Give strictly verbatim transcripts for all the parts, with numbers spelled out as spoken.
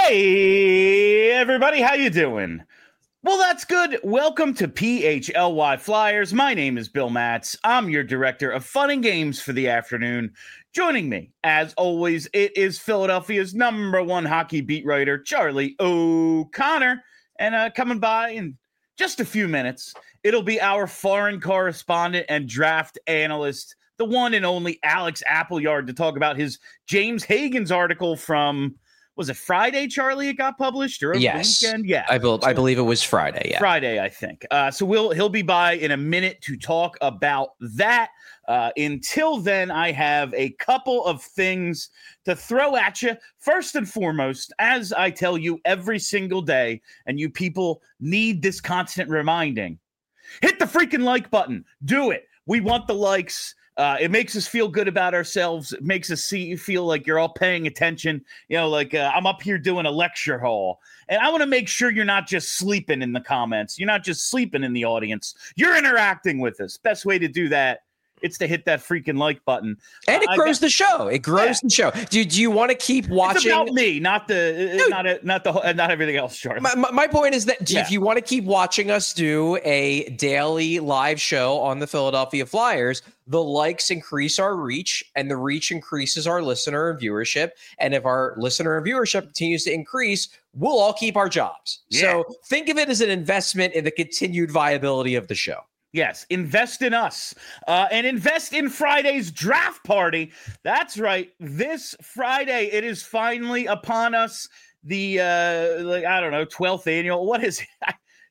Hey, everybody, how you doing? Well, that's good. Welcome to P H L Y Flyers. My name is Bill Matz. I'm your director of fun and games for the afternoon. Joining me, as always, it is Philadelphia's number one hockey beat writer, Charlie O'Connor. And uh, coming by in just a few minutes, it'll be our foreign correspondent and draft analyst, the one and only Alex Appleyard, to talk about his James Hagens article from... Was it Friday, Charlie, it got published? Or over yes. the weekend? Yeah. I, be- I believe it was Friday, yeah. Friday, I think. Uh, so we'll he'll be by in a minute to talk about that. Uh, until then, I have a couple of things to throw at you. First and foremost, as I tell you every single day, and you people need this constant reminding, hit the freaking like button. Do it. We want the likes. Uh, it makes us feel good about ourselves. It makes us see feel like you're all paying attention. You know, like uh, I'm up here doing a lecture hall. And I want to make sure you're not just sleeping in the comments. You're not just sleeping in the audience. You're interacting with us. Best way to do that, it's to hit that freaking like button. And it uh, grows got, the show. It grows yeah. the show. Do, do you want to keep watching? It's about me, not the Dude, not a, not the uh, not everything else, Charlie. My, my, my point is that yeah. if you want to keep watching us do a daily live show on the Philadelphia Flyers, the likes increase our reach, and the reach increases our listener and viewership. And if our listener and viewership continues to increase, we'll all keep our jobs. Yeah. So think of it as an investment in the continued viability of the show. Yes, invest in us uh, and invest in Friday's draft party. That's right. This Friday, it is finally upon us. The, uh, like, I don't know, twelfth annual. What is it?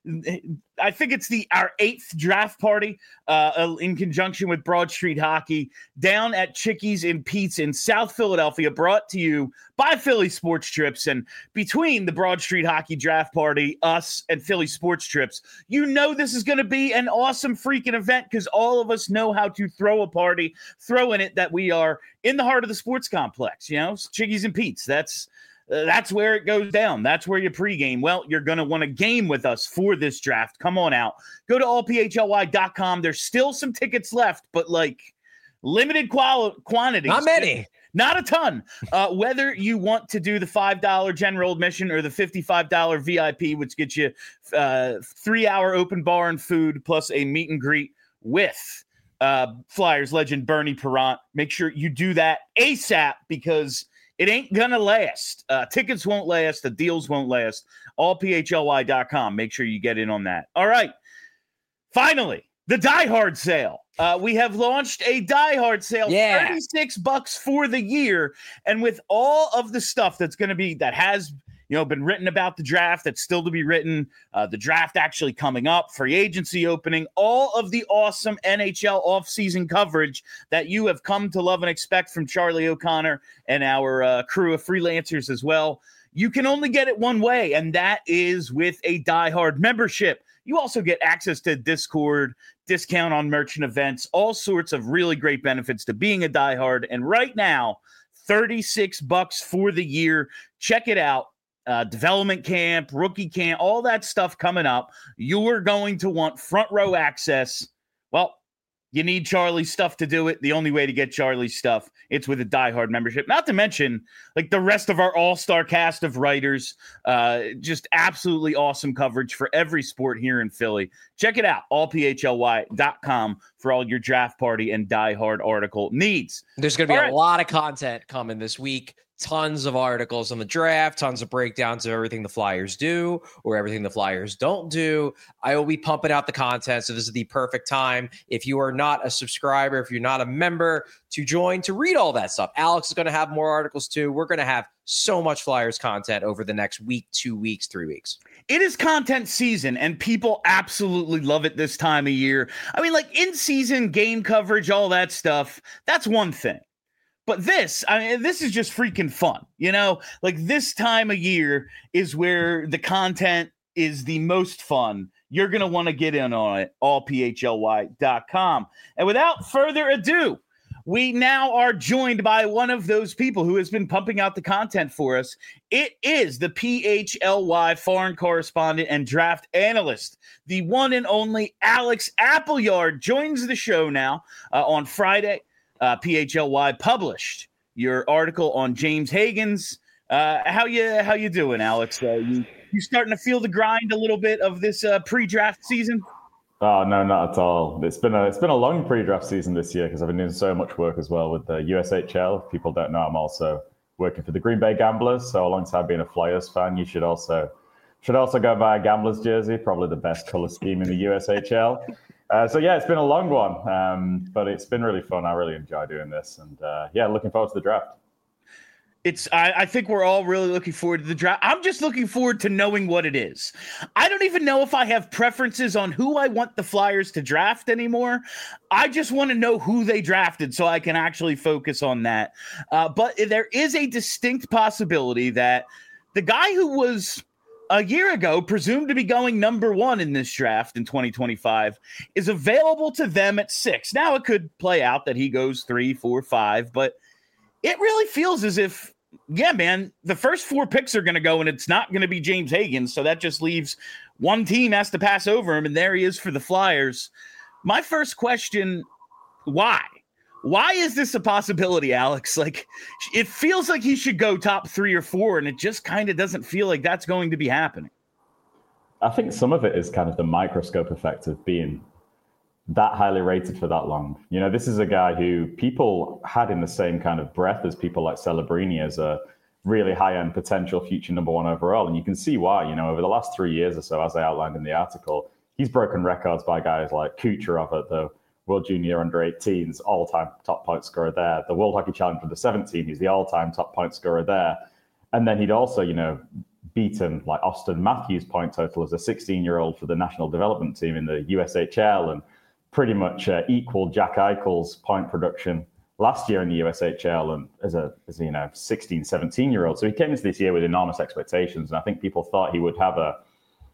I think it's the our eighth draft party uh, in conjunction with Broad Street Hockey down at Chickies and Pete's in South Philadelphia, brought to you by Philly Sports Trips. And between the Broad Street Hockey draft party, us, and Philly Sports Trips, you know this is going to be an awesome freaking event because all of us know how to throw a party, throw in it that we are in the heart of the sports complex, you know, Chickies and Pete's. That's Uh, that's where it goes down. That's where you pregame. Well, you're going to want to game with us for this draft. Come on out. Go to all p h l y dot com. There's still some tickets left, but like limited quali- quantities. Not many. Not a ton. Uh, whether you want to do the five dollars general admission or the fifty-five dollars V I P, which gets you uh, three-hour open bar and food plus a meet and greet with uh, Flyers legend Bernie Parent. Make sure you do that ASAP because it ain't gonna last. Uh, tickets won't last. The deals won't last. all p h l y dot com. Make sure you get in on that. All right. Finally, the Die Hard sale. Uh, we have launched a Die Hard sale. Yeah. thirty-six bucks for the year. And with all of the stuff that's going to be, that has, you know, been written about the draft, that's still to be written, uh, the draft actually coming up, free agency opening, all of the awesome N H L offseason coverage that you have come to love and expect from Charlie O'Connor and our uh, crew of freelancers as well. You can only get it one way, and that is with a Die Hard membership. You also get access to Discord, discount on merchant events, all sorts of really great benefits to being a Die Hard. And right now, thirty-six bucks for the year. Check it out. Uh, development camp, rookie camp, all that stuff coming up. You're going to want front row access. Well, you need Charlie's stuff to do it. The only way to get Charlie's stuff, it's with a Die Hard membership. Not to mention, like the rest of our all-star cast of writers, uh, just absolutely awesome coverage for every sport here in Philly. Check it out, all p h l y dot com for all your draft party and Die Hard article needs. There's going to be all a right. lot of content coming this week. Tons of articles on the draft, tons of breakdowns of everything the Flyers do or everything the Flyers don't do. I will be pumping out the content, so this is the perfect time. If you are not a subscriber, if you're not a member, to join to read all that stuff. Alex is going to have more articles too. We're going to have so much Flyers content over the next week, two weeks, three weeks. It is content season, and people absolutely love it this time of year. I mean, like in-season game coverage, all that stuff, that's one thing. But this, I mean, this is just freaking fun, you know? Like this time of year is where the content is the most fun. You're going to want to get in on it, all p h l y dot com. And without further ado, we now are joined by one of those people who has been pumping out the content for us. It is the P H L Y foreign correspondent and draft analyst, the one and only Alex Appleyard joins the show now uh, on Friday. Uh, P H L Y published your article on James Hagens. Uh, how you how you doing, Alex? Uh, you you starting to feel the grind a little bit of this uh, pre-draft season? Oh no, not at all. It's been a it's been a long pre-draft season this year because I've been doing so much work as well with the U S H L. If people don't know, I'm also working for the Green Bay Gamblers. So alongside being a Flyers fan, you should also should also go buy a Gamblers jersey. Probably the best color scheme in the U S H L. Uh, so yeah, it's been a long one, um, but it's been really fun. I really enjoy doing this, and uh, yeah, looking forward to the draft. It's. I, I think we're all really looking forward to the draft. I'm just looking forward to knowing what it is. I don't even know if I have preferences on who I want the Flyers to draft anymore. I just want to know who they drafted so I can actually focus on that. Uh, but there is a distinct possibility that the guy who was a year ago presumed to be going number one in this draft in twenty twenty-five is available to them at six. Now, it could play out that he goes three, four, five, but it really feels as if, yeah, man, the first four picks are going to go, and it's not going to be James Higgins. So that just leaves one team has to pass over him, and there he is for the Flyers. My first question, why? Why is this a possibility, Alex? Like, it feels like he should go top three or four, and it just kind of doesn't feel like that's going to be happening. I think some of it is kind of the microscope effect of being that highly rated for that long. You know, this is a guy who people had in the same kind of breath as people like Celebrini as a really high-end potential future number one overall. And you can see why, you know, over the last three years or so, as I outlined in the article, he's broken records by guys like Kucherov at the World Junior Under eighteens, all-time top point scorer there. The World Hockey Challenge Under seventeen, he's the all-time top point scorer there. And then he'd also, you know, beaten like Austin Matthews' point total as a sixteen-year-old for the national development team in the U S H L, and pretty much uh, equal Jack Eichel's point production last year in the U S H L and as a, as a, you know, sixteen, seventeen year old. So he came into this year with enormous expectations. And I think people thought he would have a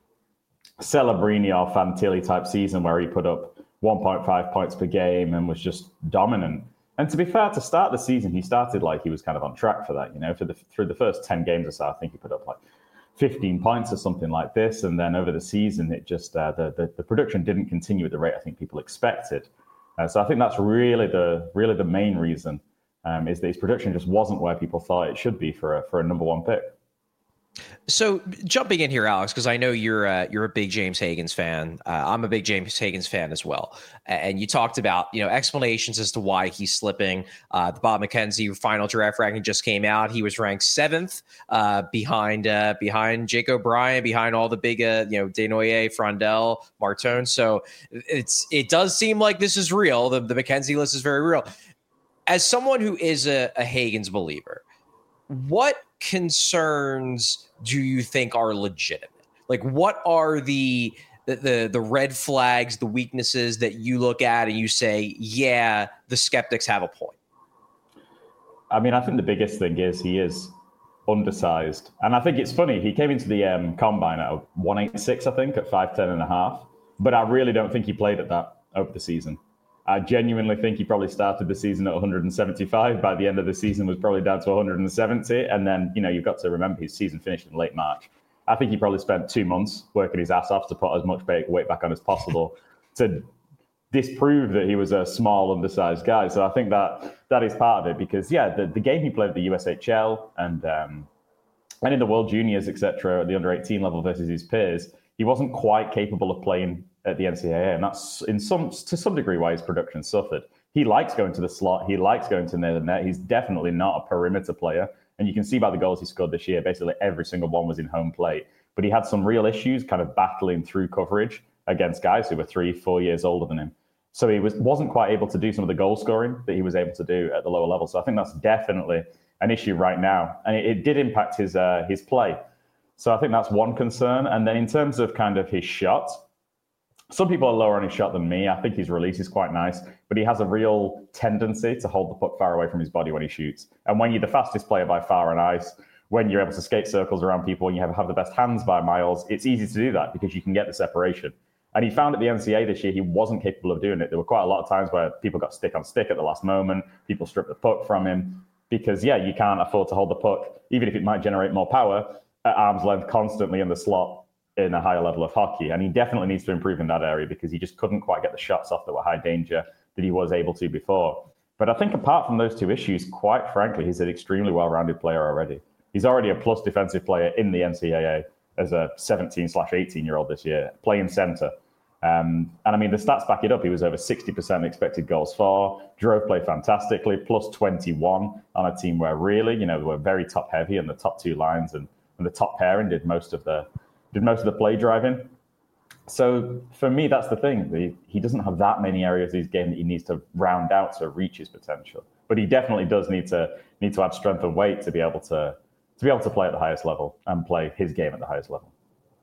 Celebrini or Fantilli type season where he put up one point five points per game and was just dominant. And to be fair, to start the season, he started like he was kind of on track for that. You know, for the, through the first ten games or so, I think he put up like fifteen points or something like this. And then over the season, it just, uh, the, the, the production didn't continue at the rate I think people expected. Uh, so I think that's really the really the main reason um, is that his production just wasn't where people thought it should be for a, for a number one pick. So jumping in here, Alex, because I know you're uh, you're a big James Higgins fan. Uh, I'm a big James Higgins fan as well. And you talked about, you know, explanations as to why he's slipping. Uh, the Bob McKenzie final draft ranking just came out. He was ranked seventh uh, behind uh, behind Jake O'Brien, behind all the big, uh, you know, Desnoyers, Frondel, Martone. So it's it does seem like this is real. The, the McKenzie list is very real. As someone who is a, a Higgins believer, what concerns do you think are legitimate? Like, what are the, the the the red flags, the weaknesses that you look at and you say, yeah, the skeptics have a point? I mean, I think the biggest thing is he is undersized. And I think it's funny, he came into the um, combine at one eighty-six, I think, at five ten and a half. But I really don't think he played at that over the season. I genuinely think he probably started the season at one seventy-five. By the end of the season, was probably down to one seventy. And then, you know, you've got to remember his season finished in late March. I think he probably spent two months working his ass off to put as much weight back on as possible to disprove that he was a small, undersized guy. So I think that that is part of it because, yeah, the, the game he played at the U S H L and um, and in the World Juniors, et cetera, at the under eighteen level versus his peers, he wasn't quite capable of playing at the N C double A, and that's in some to some degree why his production suffered. He likes going to the slot. He likes going to near the net. He's definitely not a perimeter player, and you can see by the goals he scored this year, basically every single one was in home plate. But he had some real issues kind of battling through coverage against guys who were three, four years older than him. So he was, wasn't quite able to do some of the goal scoring that he was able to do at the lower level. So I think that's definitely an issue right now, and it, it did impact his uh, his play. So I think that's one concern. And then in terms of kind of his shot, some people are lower on his shot than me. I think his release is quite nice, but he has a real tendency to hold the puck far away from his body when he shoots. And when you're the fastest player by far on ice, when you're able to skate circles around people and you have, have the best hands by miles, it's easy to do that because you can get the separation. And he found at the N C double A this year, he wasn't capable of doing it. There were quite a lot of times where people got stick on stick at the last moment. People stripped the puck from him because, yeah, you can't afford to hold the puck, even if it might generate more power, at arm's length constantly in the slot in a higher level of hockey. And he definitely needs to improve in that area because he just couldn't quite get the shots off that were high danger that he was able to before. But I think apart from those two issues, quite frankly, he's an extremely well-rounded player already. He's already a plus defensive player in the N C double A as a seventeen slash eighteen year old this year, playing center. Um, and I mean, the stats back it up. He was over sixty percent expected goals for, drove play fantastically, plus twenty-one on a team where really, you know, they were very top heavy and the top two lines and, and the top pairing did most of the did most of the play driving. So for me, that's the thing. The, he doesn't have that many areas of his game that he needs to round out to reach his potential. But he definitely does need to need to add strength and weight to be able to to be able to play at the highest level and play his game at the highest level.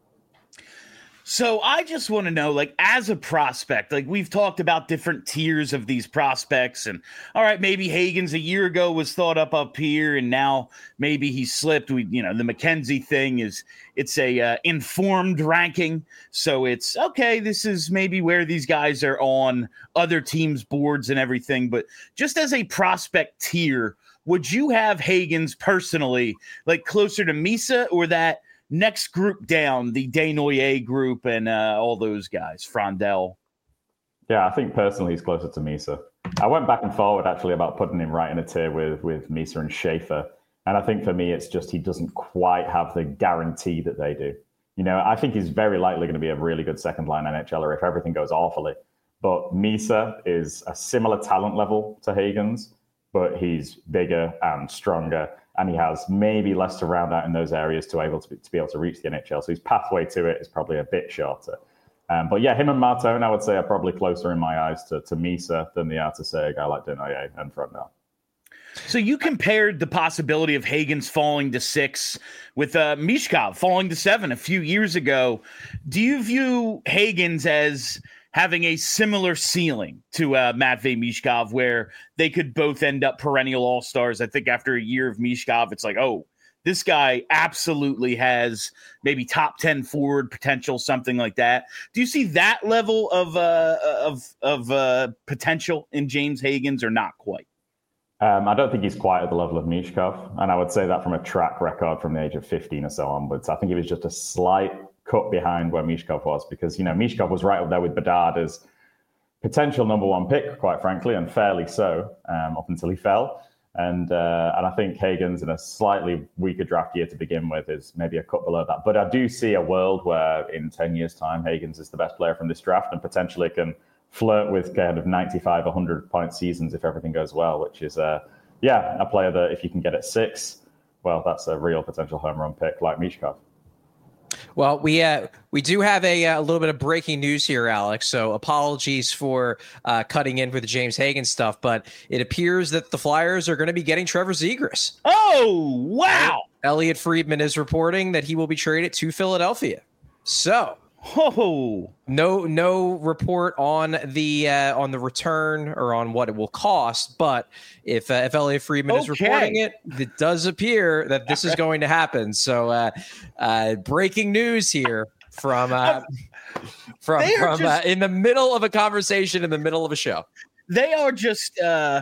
So I just want to know, like, as a prospect, like we've talked about different tiers of these prospects, and all right, maybe Hagans a year ago was thought up up here, and now maybe he slipped. We, you know, the McKenzie thing is it's a uh, informed ranking, so it's okay. This is maybe where these guys are on other teams' boards and everything. But just as a prospect tier, would you have Hagans personally, like closer to Misa or that next group down, the Desnoyers group and uh, all those guys, Frondell? Yeah, I think personally he's closer to Misa. I went back and forward actually about putting him right in a tier with, with Misa and Schaefer. And I think for me, it's just he doesn't quite have the guarantee that they do. You know, I think he's very likely going to be a really good second line NHLer if everything goes awfully. But Misa is a similar talent level to Hagans, but he's bigger and stronger. And he has maybe less to round out in those areas to able to be, to be able to reach the N H L. So his pathway to it is probably a bit shorter. Um, but yeah, him and Martone, I would say, are probably closer in my eyes to, to Misa than they are to, say, a guy like Desnoyers and Frondell. So you compared the possibility of Hagans falling to six with uh, Michkov falling to seven a few years ago. Do you view Hagans as having a similar ceiling to uh, Matvei Michkov, where they could both end up perennial all-stars? I think after a year of Michkov, it's like, oh, this guy absolutely has maybe top ten forward potential, something like that. Do you see that level of uh, of of uh, potential in James Hagans, or not quite? Um, I don't think he's quite at the level of Michkov, and I would say that from a track record from the age of fifteen or so onwards. I think he was just a slight cut behind where Michkov was, because, you know, Michkov was right up there with Bedard as potential number one pick, quite frankly, and fairly so, um, up until he fell. And uh, and I think Hagans in a slightly weaker draft year to begin with is maybe a cut below that. But I do see a world where in ten years' time, Hagans is the best player from this draft and potentially can flirt with kind of ninety-five, one hundred point seasons if everything goes well, which is, uh, yeah, a player that if you can get at six, well, that's a real potential home run pick like Michkov. Well, we uh, we do have a, a little bit of breaking news here, Alex. So apologies for uh, cutting in for the James Hagans stuff, but it appears that the Flyers are going to be getting Trevor Zegras. Oh, wow. Elliot Friedman is reporting that he will be traded to Philadelphia. So, oh, no no report on the uh, on the return or on what it will cost, but if uh, if Elliot Friedman okay. is reporting it, it does appear that this is going to happen. So, uh, uh, breaking news here from uh, from from just, uh, in the middle of a conversation in the middle of a show. They are just uh,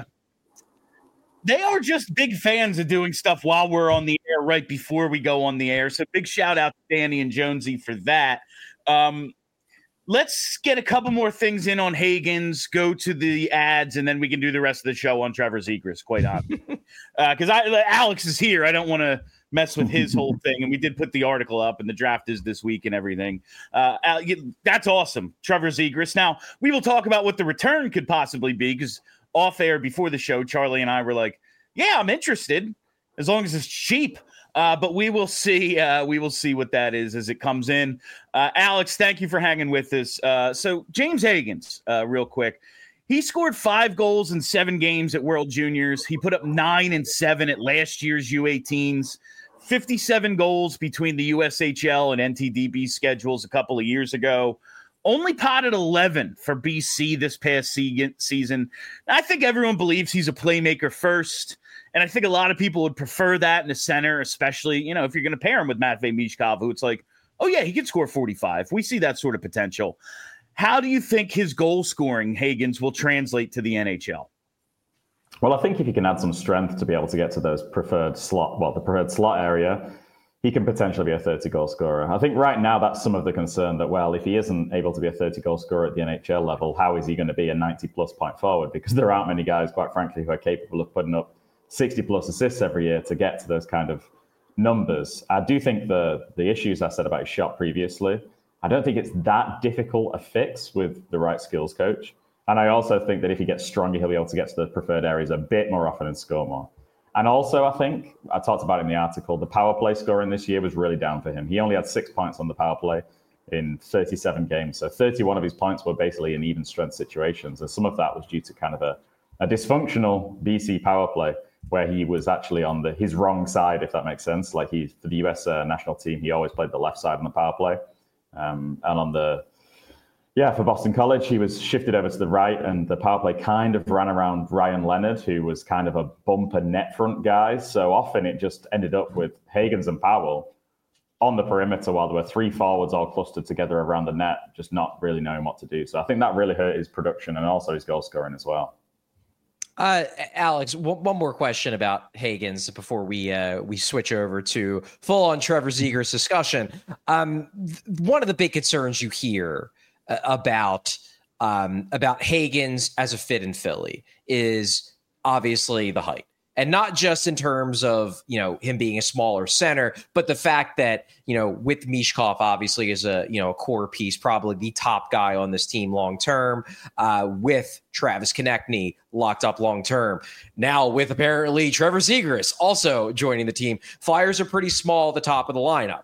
they are just big fans of doing stuff while we're on the air, right before we go on the air. So big shout out to Danny and Jonesy for that. Um, let's get a couple more things in on Hagans, go to the ads, and then we can do the rest of the show on Trevor Zegras, quite honestly. Because uh, I Alex is here. I don't want to mess with his whole thing. And we did put the article up, and the draft is this week and everything. Uh, that's awesome, Trevor Zegras. Now, we will talk about what the return could possibly be, because off air before the show, Charlie and I were like, yeah, I'm interested, as long as it's cheap. Uh, but we will see. Uh, we will see what that is as it comes in. Uh, Alex, thank you for hanging with us. Uh, so James Hagans, uh, real quick, he scored five goals in seven games at World Juniors. He put up nine and seven at last year's U eighteens. fifty-seven goals between the U S H L and N T D B schedules a couple of years ago. Only potted eleven for B C this past season. I think everyone believes he's a playmaker first. And I think a lot of people would prefer that in the center, especially, you know, if you're going to pair him with Matvei Michkov, who it's like, oh, yeah, he can score forty-five. We see that sort of potential. How do you think his goal scoring, Hagans, will translate to the N H L? Well, I think if he can add some strength to be able to get to those preferred slot, well, the preferred slot area, he can potentially be a thirty-goal scorer. I think right now that's some of the concern that, well, if he isn't able to be a thirty-goal scorer at the N H L level, how is he going to be a ninety-plus point forward? Because there aren't many guys, quite frankly, who are capable of putting up sixty-plus assists every year to get to those kind of numbers. I do think the the issues I said about his shot previously, I don't think it's that difficult a fix with the right skills coach. And I also think that if he gets stronger, he'll be able to get to the preferred areas a bit more often and score more. And also, I think, I talked about it in the article, the power play scoring this year was really down for him. He only had six points on the power play in thirty-seven games. So thirty-one of his points were basically in even strength situations. And some of that was due to kind of a, a dysfunctional B C power play where he was actually on the his wrong side, if that makes sense. Like he, for the U S uh, national team, he always played the left side on the power play. Um, and on the, yeah, for Boston College, he was shifted over to the right, and the power play kind of ran around Ryan Leonard, who was kind of a bumper net front guy. So often it just ended up with Hagans and Powell on the perimeter while there were three forwards all clustered together around the net, just not really knowing what to do. So I think that really hurt his production and also his goal scoring as well. Uh, Alex, w- one more question about Hagans before we uh, we switch over to full on Trevor Zegras discussion. Um, th- one of the big concerns you hear uh, about um, about Hagans as a fit in Philly is obviously the height. And not just in terms of, you know, him being a smaller center, but the fact that, you know, with Mishkov obviously is a, you know, a core piece, probably the top guy on this team long term, uh, with Travis Konechny locked up long term. Now with apparently Trevor Zegras also joining the team, Flyers are pretty small at the top of the lineup.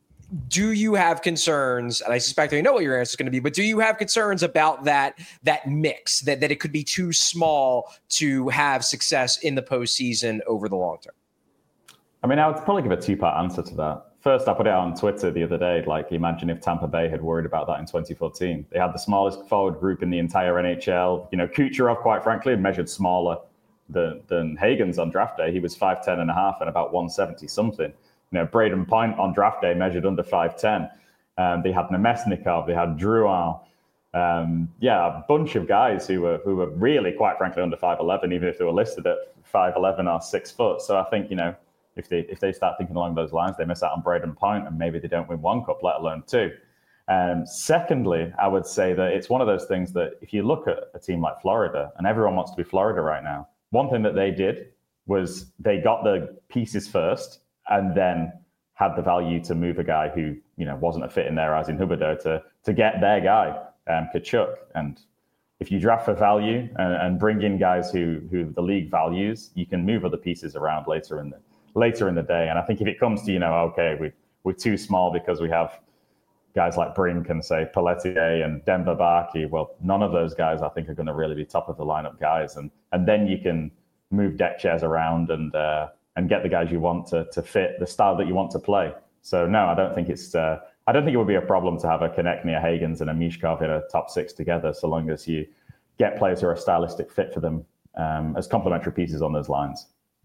Do you have concerns, and I suspect I know what your answer is going to be, but do you have concerns about that that mix, that, that it could be too small to have success in the postseason over the long term? I mean, I would probably give a two-part answer to that. First, I put it on Twitter the other day, like imagine if Tampa Bay had worried about that in twenty fourteen. They had the smallest forward group in the entire N H L. You know, Kucherov, quite frankly, measured smaller than, than Hagans on draft day. He was five ten and a half and about one seventy something. You know, Braden Point on draft day measured under five ten. Um, they had Nemesnikov, they had Drouin. Um, yeah, a bunch of guys who were who were really, quite frankly, under five eleven, even if they were listed at five eleven or six foot. So I think, you know, if they if they start thinking along those lines, they miss out on Braden Point, and maybe they don't win one cup, let alone two. Um, secondly, I would say that it's one of those things that if you look at a team like Florida, and everyone wants to be Florida right now, one thing that they did was they got the pieces first, and then had the value to move a guy who, you know, wasn't a fit in their eyes in Huberdeau to to get their guy, um, Tkachuk. And if you draft for value and, and bring in guys who who the league values, you can move other pieces around later in the later in the day. And I think if it comes to, you know, okay, we we're too small because we have guys like Brink and say Pelletier and Denver Barkey, well, none of those guys I think are going to really be top of the lineup guys. And and then you can move deck chairs around and uh, and get the guys you want to to fit the style that you want to play. So no, I don't think it's uh, I don't think it would be a problem to have a Konechny, a Hagans, and a Mishkov in a top six together, so long as you get players who are a stylistic fit for them um, as complementary pieces on those lines.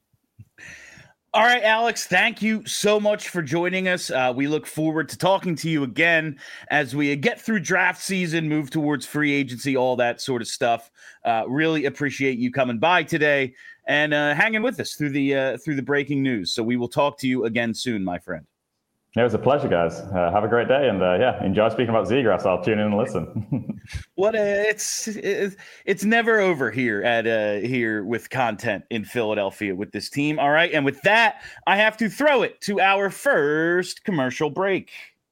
All right, Alex, thank you so much for joining us. Uh, we look forward to talking to you again as we get through draft season, move towards free agency, all that sort of stuff. Uh, really appreciate you coming by today and uh, hanging with us through the uh, through the breaking news. So we will talk to you again soon, my friend. It was a pleasure, guys. Uh, have a great day, and uh, yeah, enjoy speaking about Zegras. I'll tune in and listen. What a, it's, it's it's never over here at uh, here with content in Philadelphia with this team. All right, and with that, I have to throw it to our first commercial break.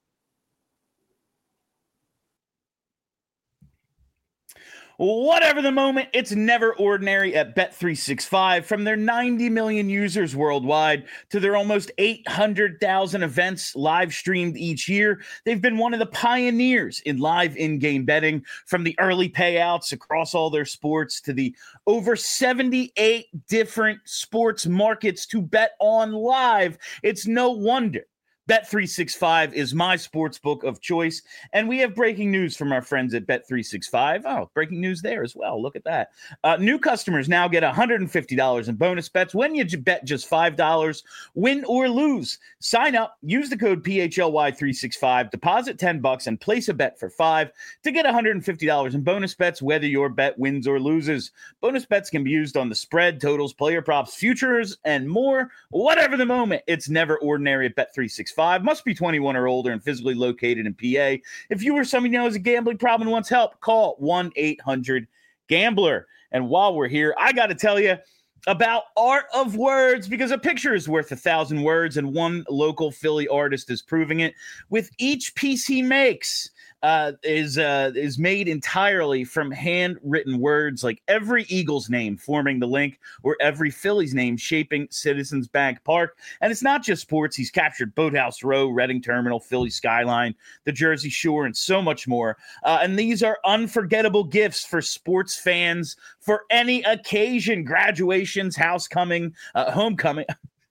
Whatever the moment, it's never ordinary at Bet three sixty-five. From their ninety million users worldwide to their almost eight hundred thousand events live streamed each year, they've been one of the pioneers in live in-game betting. From the early payouts across all their sports to the over seventy-eight different sports markets to bet on live, it's no wonder Bet three sixty-five is my sports book of choice, and we have breaking news from our friends at Bet three sixty-five. Oh, breaking news there as well. Look at that. Uh, new customers now get one hundred fifty dollars in bonus bets when you bet just five dollars, win or lose. Sign up, use the code P H L Y three sixty-five, deposit ten bucks, and place a bet for five to get one hundred fifty dollars in bonus bets, whether your bet wins or loses. Bonus bets can be used on the spread, totals, player props, futures, and more. Whatever the moment, it's never ordinary at Bet three sixty-five. Must be twenty-one or older and physically located in P A. If you or somebody knows a gambling problem and wants help, call one eight hundred gambler. And while we're here, I got to tell you, about Art of Words, because a picture is worth a thousand words, and one local Philly artist is proving it with each piece he makes. Uh, is uh, is made entirely from handwritten words, like every Eagles name forming the link, or every Phillies name shaping Citizens Bank Park. And it's not just sports. He's captured Boathouse Row, Reading Terminal, Philly Skyline, the Jersey Shore, and so much more. Uh, and these are unforgettable gifts for sports fans for any occasion: graduations, housecoming, uh, homecoming.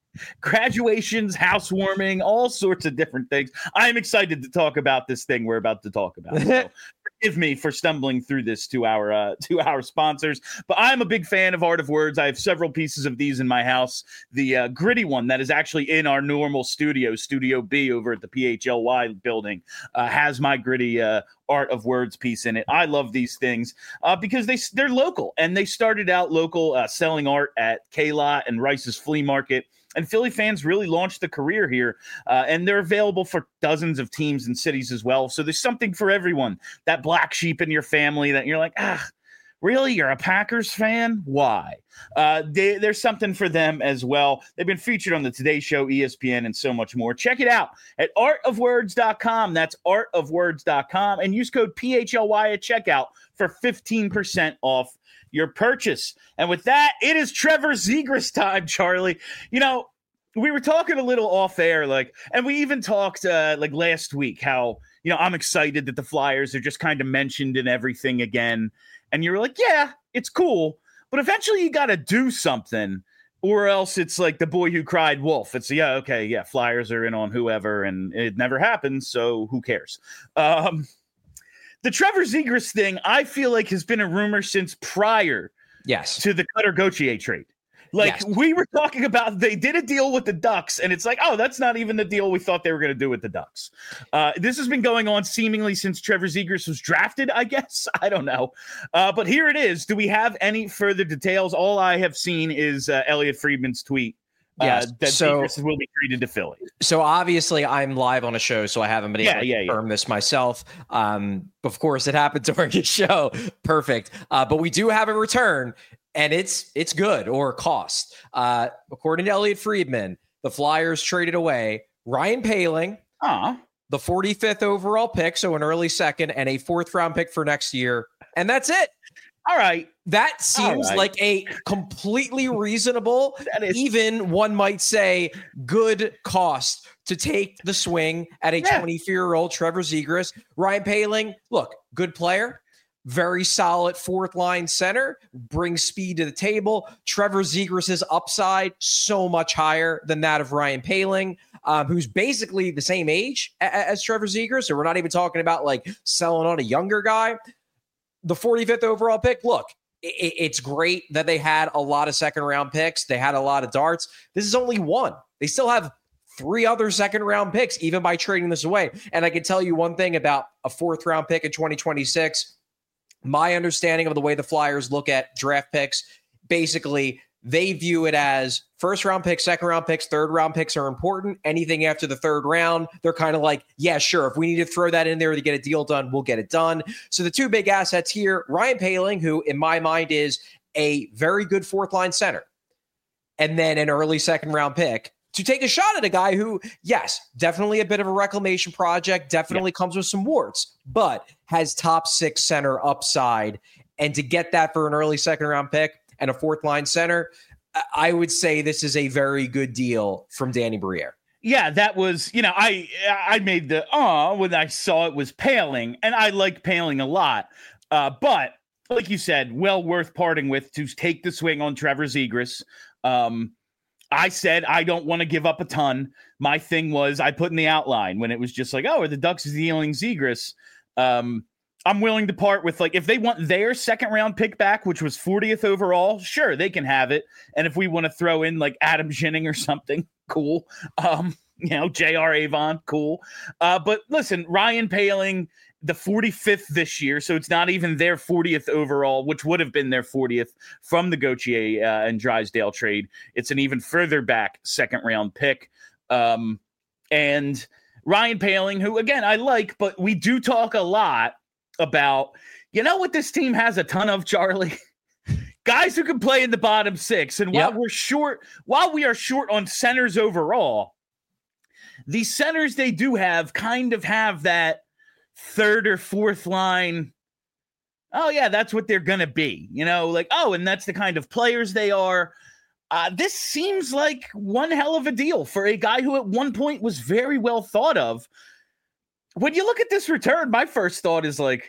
graduations, housewarming, all sorts of different things. I'm excited to talk about this thing we're about to talk about. So forgive me for stumbling through this to our uh, to our sponsors, but I'm a big fan of Art of Words. I have several pieces of these in my house. The uh, gritty one that is actually in our normal studio, Studio B over at the P H L Y building, uh, has my gritty uh, Art of Words piece in it. I love these things uh, because they, they're local, and they started out local, uh, selling art at K-Lot and Rice's Flea Market. And Philly fans really launched the career here, uh, and they're available for dozens of teams and cities as well. So there's something for everyone. That black sheep in your family that you're like, ah, really? You're a Packers fan? Why? Uh, they, there's something for them as well. They've been featured on the Today Show, E S P N, and so much more. Check it out at art of words dot com. That's art of words dot com. And use code P H L Y at checkout for fifteen percent off your purchase. And with that, it is Trevor Zegras time, Charlie. You know, we were talking a little off air, like, and we even talked uh, like last week how, you know, I'm excited that the Flyers are just kind of mentioned in everything again. And you're like, yeah, it's cool, but eventually you got to do something, or else it's like the boy who cried wolf. It's, yeah, okay, yeah, Flyers are in on whoever, and it never happens, so who cares? Um, The Trevor Zegras thing, I feel like, has been a rumor since prior yes. to the Cutter Gauthier trade. Like, yes. we were talking about, they did a deal with the Ducks, and it's like, oh, that's not even the deal we thought they were going to do with the Ducks. Uh, this has been going on seemingly since Trevor Zegras was drafted, I guess. I don't know. Uh, but here it is. Do we have any further details? All I have seen is uh, Elliot Friedman's tweet. Yes. Uh, that so, Zegras will be traded to Philly. So obviously I'm live on a show, so I haven't been able yeah, to yeah, confirm yeah. this myself. Um, of course, it happened during a show. Perfect. Uh, but we do have a return, and it's it's good or cost. Uh, according to Elliot Friedman, the Flyers traded away Ryan Poehling, Aww. the forty-fifth overall pick, so an early second, and a fourth round pick for next year. And that's it. All right. That seems right. like a completely reasonable, That is- even one might say good cost to take the swing at a Yeah. twenty-four-year-old Trevor Zegras. Ryan Poehling, look, good player, very solid fourth line center, brings speed to the table. Trevor Zegras' upside so much higher than that of Ryan Poehling, um, who's basically the same age a- as Trevor Zegras. So we're not even talking about like selling on a younger guy. The forty-fifth overall pick, look, it, it's great that they had a lot of second round picks. They had a lot of darts. This is only one. They still have three other second round picks, even by trading this away. And I can tell you one thing about a fourth round pick in twenty twenty-six. My understanding of the way the Flyers look at draft picks, basically, they view it as first round picks, second round picks, third round picks are important. Anything after the third round, they're kind of like, yeah, sure. If we need to throw that in there to get a deal done, we'll get it done. So the two big assets here, Ryan Poehling, who in my mind is a very good fourth line center, and then an early second round pick to take a shot at a guy who, yes, definitely a bit of a reclamation project, definitely yeah. comes with some warts, but has top six center upside. And to get that for an early second round pick and a fourth line center, I would say this is a very good deal from Danny Briere. Yeah, that was, you know, I I made the uh when I saw it was Poehling, and I like Poehling a lot. Uh, but like you said, well worth parting with to take the swing on Trevor Zegras. Um, I said I don't want to give up a ton. My thing was I put in the outline when it was just like, oh, are the Ducks dealing Zegras? Um, I'm willing to part with, like, if they want their second round pick back, which was fortieth overall, sure, they can have it. And if we want to throw in like Adam Ginning or something, cool. Um, you know, J R Avon, cool. Uh, but listen, Ryan Poehling, the forty-fifth this year, so it's not even their fortieth overall, which would have been their fortieth from the Gauthier uh, and Drysdale trade. It's an even further back second round pick. Um, and Ryan Poehling, who, again, I like, but we do talk a lot about, you know what this team has a ton of, Charlie? guys who can play in the bottom six. And while Yep. we're short, while we are short on centers overall, the centers they do have kind of have that third or fourth line. Oh, yeah, that's what they're going to be. You know, like, oh, and that's the kind of players they are. Uh, this seems like one hell of a deal for a guy who at one point was very well thought of. When you look at this return, my first thought is like,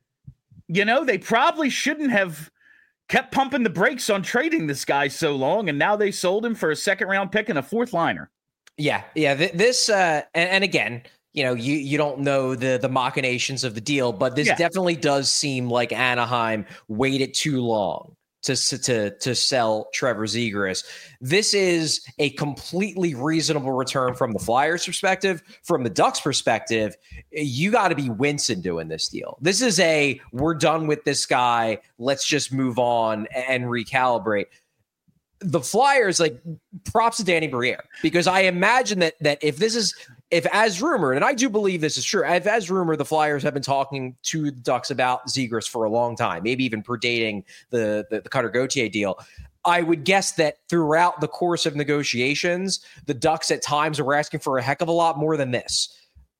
you know, they probably shouldn't have kept pumping the brakes on trading this guy so long, and now they sold him for a second round pick and a fourth liner. Yeah, yeah. Th- this uh, and, and again, you know, you you don't know the the machinations of the deal, but this Yeah. definitely does seem like Anaheim waited too long to to to sell Trevor Zegras. This is a completely reasonable return from the Flyers' perspective. From the Ducks' perspective, you got to be wincing doing this deal. This is a we're done with this guy. Let's just move on and recalibrate. The Flyers, like, props to Danny Briere, because I imagine that that if this is if as rumored, and I do believe this is true, if as rumored, the Flyers have been talking to the Ducks about Zegras for a long time, maybe even predating the the, the Cutter Gauthier deal. I would guess that throughout the course of negotiations, the Ducks at times were asking for a heck of a lot more than this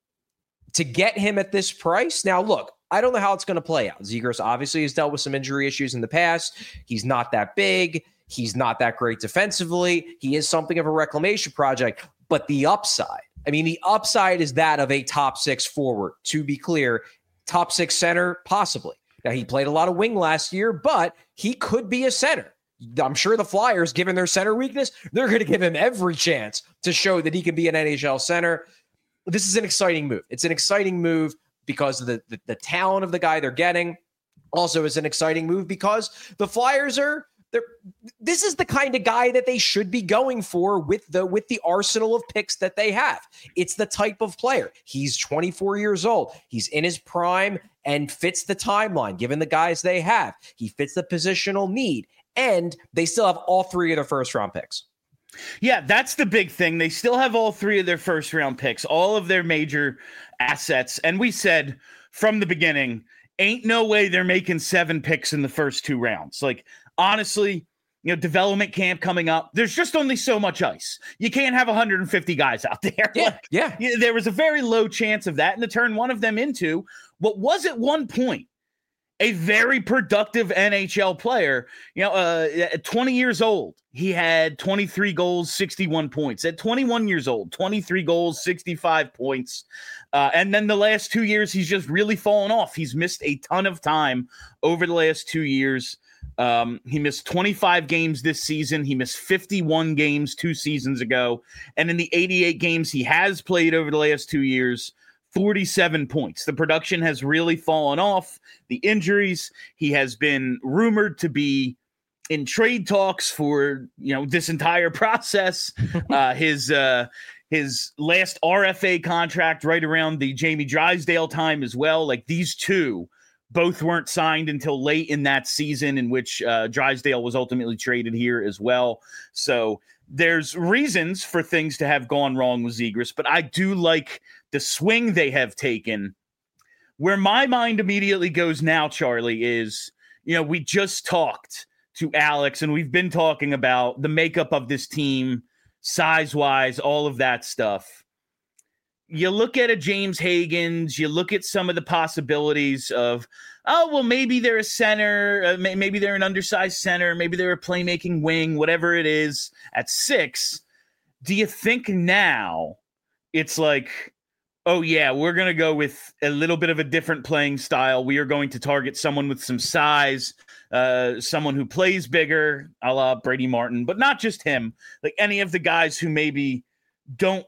to get him at this price. Now, look, I don't know how it's going to play out. Zegras obviously has dealt with some injury issues in the past. He's not that big. He's not that great defensively. He is something of a reclamation project, but the upside, I mean, the upside is that of a top six forward. To be clear, top six center, possibly. Now, he played a lot of wing last year, but he could be a center. I'm sure the Flyers, given their center weakness, they're going to give him every chance to show that he can be an N H L center. This is an exciting move. It's an exciting move because of the, the, the talent of the guy they're getting. Also, it's an exciting move because the Flyers are They're, this is the kind of guy that they should be going for with the with the arsenal of picks that they have. It's the type of player. He's twenty-four years old. He's in his prime and fits the timeline, given the guys they have. He fits the positional need, and they still have all three of their first-round picks. Yeah, that's the big thing. They still have all three of their first-round picks, all of their major assets. And we said from the beginning, ain't no way they're making seven picks in the first two rounds. Like, honestly, you know, development camp coming up, there's just only so much ice. You can't have one hundred fifty guys out there. Yeah, like, yeah. yeah. There was a very low chance of that, and to turn one of them into what was at one point a very productive N H L player. You know, uh, at twenty years old, he had twenty-three goals, sixty-one points. At twenty-one years old, twenty-three goals, sixty-five points. Uh, and then the last two years, he's just really fallen off. He's missed a ton of time over the last two years. Um, he missed twenty-five games this season. He missed fifty-one games two seasons ago. And in the eighty-eight games he has played over the last two years, forty-seven points. The production has really fallen off. The injuries, he has been rumored to be in trade talks for, you know, this entire process. uh, his, uh, his last R F A contract right around the Jamie Drysdale time as well. Like, these two both weren't signed until late in that season, in which uh, Drysdale was ultimately traded here as well. So there's reasons for things to have gone wrong with Zegras, but I do like the swing they have taken. Where my mind immediately goes now, Charlie, is, you know, we just talked to Alex and we've been talking about the makeup of this team, size-wise, all of that stuff. You look at a James Higgins, you look at some of the possibilities of, oh, well, maybe they're a center, uh, may- maybe they're an undersized center, maybe they're a playmaking wing, whatever it is at six. Do you think now it's like, oh, yeah, we're going to go with a little bit of a different playing style. We are going to target someone with some size, uh, someone who plays bigger, a la Brady Martin, but not just him, like any of the guys who maybe don't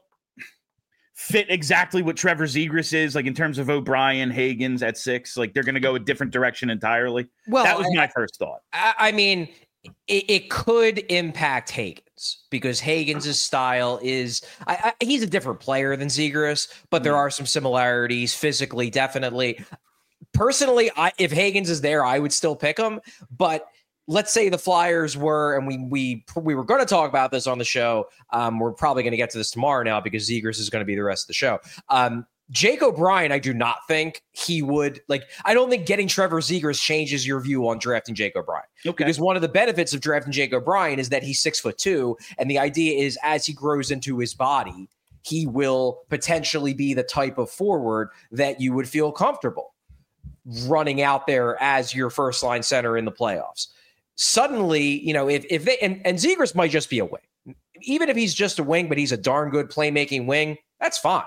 fit exactly what Trevor Zegras is, like in terms of O'Brien, Higgins at six, like they're going to go a different direction entirely. Well, that was I, my first thought. I, I mean, it, it could impact Higgins because Higgins' style is, I, I, he's a different player than Zegras, but there are some similarities physically, definitely. Personally, I, if Higgins is there, I would still pick him, but let's say the Flyers were, and we we we were going to talk about this on the show. Um, we're probably going to get to this tomorrow now because Zegras is going to be the rest of the show. Um, Jake O'Brien, I do not think he would like. I don't think getting Trevor Zegras changes your view on drafting Jake O'Brien. Okay. Because one of the benefits of drafting Jake O'Brien is that he's six foot two, and the idea is as he grows into his body, he will potentially be the type of forward that you would feel comfortable running out there as your first line center in the playoffs. Suddenly, you know, if if they and, and Zegras might just be a wing, even if he's just a wing, but he's a darn good playmaking wing, that's fine.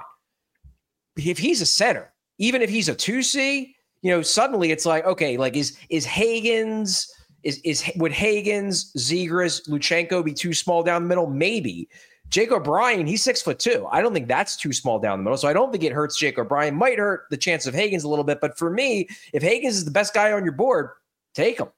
If he's a center, even if he's a two C, you know, suddenly it's like, okay, like is is Hagens, is is would Hagens, Zegras, Luchenko be too small down the middle? Maybe. Jake O'Brien, he's six foot two. I don't think that's too small down the middle. So I don't think it hurts Jake O'Brien. Might hurt the chance of Hagens a little bit. But for me, if Hagens is the best guy on your board, take him.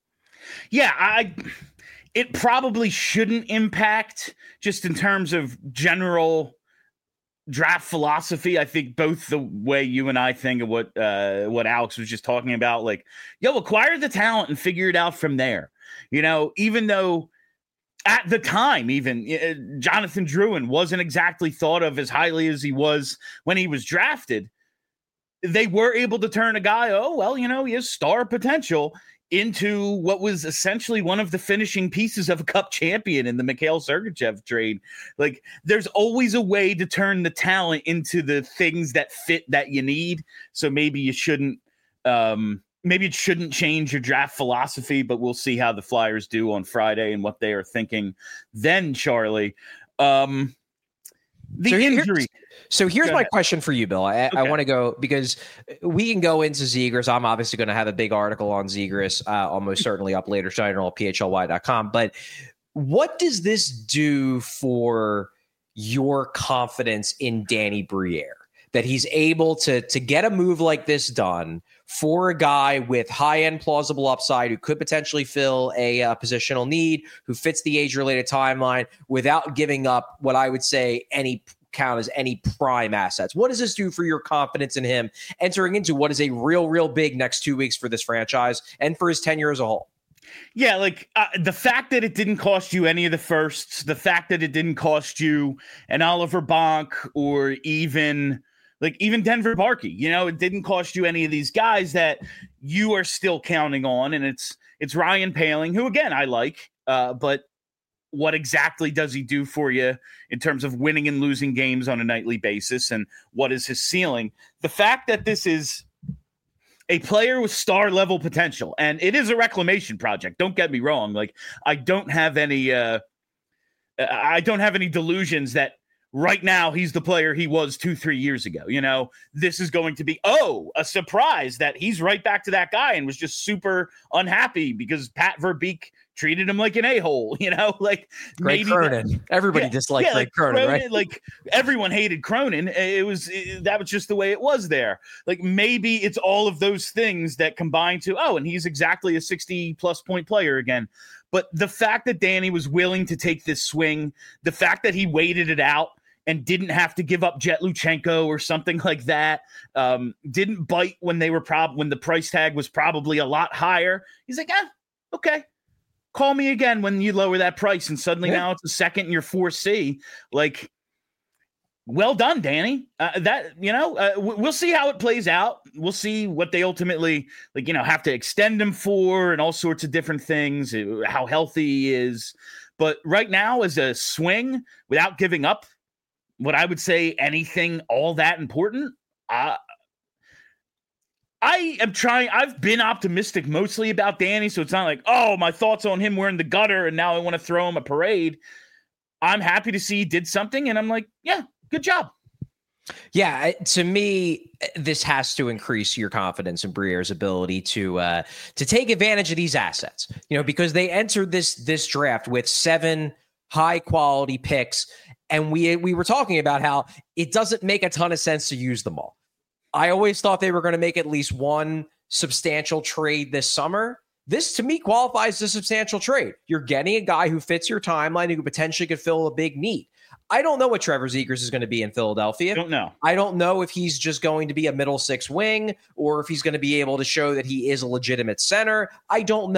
Yeah, I it probably shouldn't impact just in terms of general draft philosophy. I think both the way you and I think of what uh, what Alex was just talking about, like, yo, acquire the talent and figure it out from there. You know, even though at the time, even uh, Jonathan Drouin wasn't exactly thought of as highly as he was when he was drafted, they were able to turn a guy, oh, well, you know, he has star potential, into what was essentially one of the finishing pieces of a cup champion in the Mikhail Sergachev trade. Like, there's always a way to turn the talent into the things that fit that you need. So maybe you shouldn't, um, maybe it shouldn't change your draft philosophy, but we'll see how the Flyers do on Friday and what they are thinking then, Charlie. Um, the so injury. So here's my question for you, Bill. I, okay. I want to go because we can go into Zegras. I'm obviously going to have a big article on Zegras, uh, almost certainly up later tonight on P H L Y dot com. But what does this do for your confidence in Danny Briere? That he's able to, to get a move like this done for a guy with high-end plausible upside who could potentially fill a uh, positional need, who fits the age-related timeline without giving up what I would say any count as any prime assets. What does this do for your confidence in him entering into what is a real, real big next two weeks for this franchise and for his tenure as a whole? Yeah, like uh, the fact that it didn't cost you any of the firsts, the fact that it didn't cost you an Oliver Bonk or even like even Denver Barkey, you know, it didn't cost you any of these guys that you are still counting on. And it's it's Ryan Poehling, who, again, I like, uh, but what exactly does he do for you in terms of winning and losing games on a nightly basis? And what is his ceiling? The fact that this is a player with star level potential, and it is a reclamation project. Don't get me wrong. Like, I don't have any, uh, I don't have any delusions that right now he's the player he was two, three years ago. You know, this is going to be, oh, a surprise that he's right back to that guy and was just super unhappy because Pat Verbeek treated him like an a-hole, you know, like Greg maybe Cronin. That, Everybody yeah, disliked yeah, Greg like Cronin, Cronin, right? Like everyone hated Cronin. It was it, that was just the way it was there. Like maybe it's all of those things that combine to, oh, and he's exactly a sixty plus point player again. But the fact that Danny was willing to take this swing, the fact that he waited it out and didn't have to give up Jet Luchenko or something like that, um, didn't bite when they were prob when the price tag was probably a lot higher. He's like, ah, okay. Call me again when you lower that price. And suddenly yeah. now it's a second and you're four C. Like, well done, Danny. Uh, that, you know, uh, w- we'll see how it plays out. We'll see what they ultimately, like, you know, have to extend him for and all sorts of different things, how healthy he is. But right now, as a swing, without giving up what I would say anything all that important, uh, I am trying. I've been optimistic mostly about Danny, so it's not like, oh, my thoughts on him were in the gutter and now I want to throw him a parade. I'm happy to see he did something, and I'm like, yeah, good job. Yeah, to me, this has to increase your confidence in Briere's ability to uh, to take advantage of these assets. You know, because they entered this this draft with seven high quality picks, and we we were talking about how it doesn't make a ton of sense to use them all. I always thought they were going to make at least one substantial trade this summer. This, to me, qualifies as a substantial trade. You're getting a guy who fits your timeline, who potentially could fill a big need. I don't know what Trevor Zegras is going to be in Philadelphia. I don't know. I don't know if he's just going to be a middle six wing or if he's going to be able to show that he is a legitimate center. I don't know.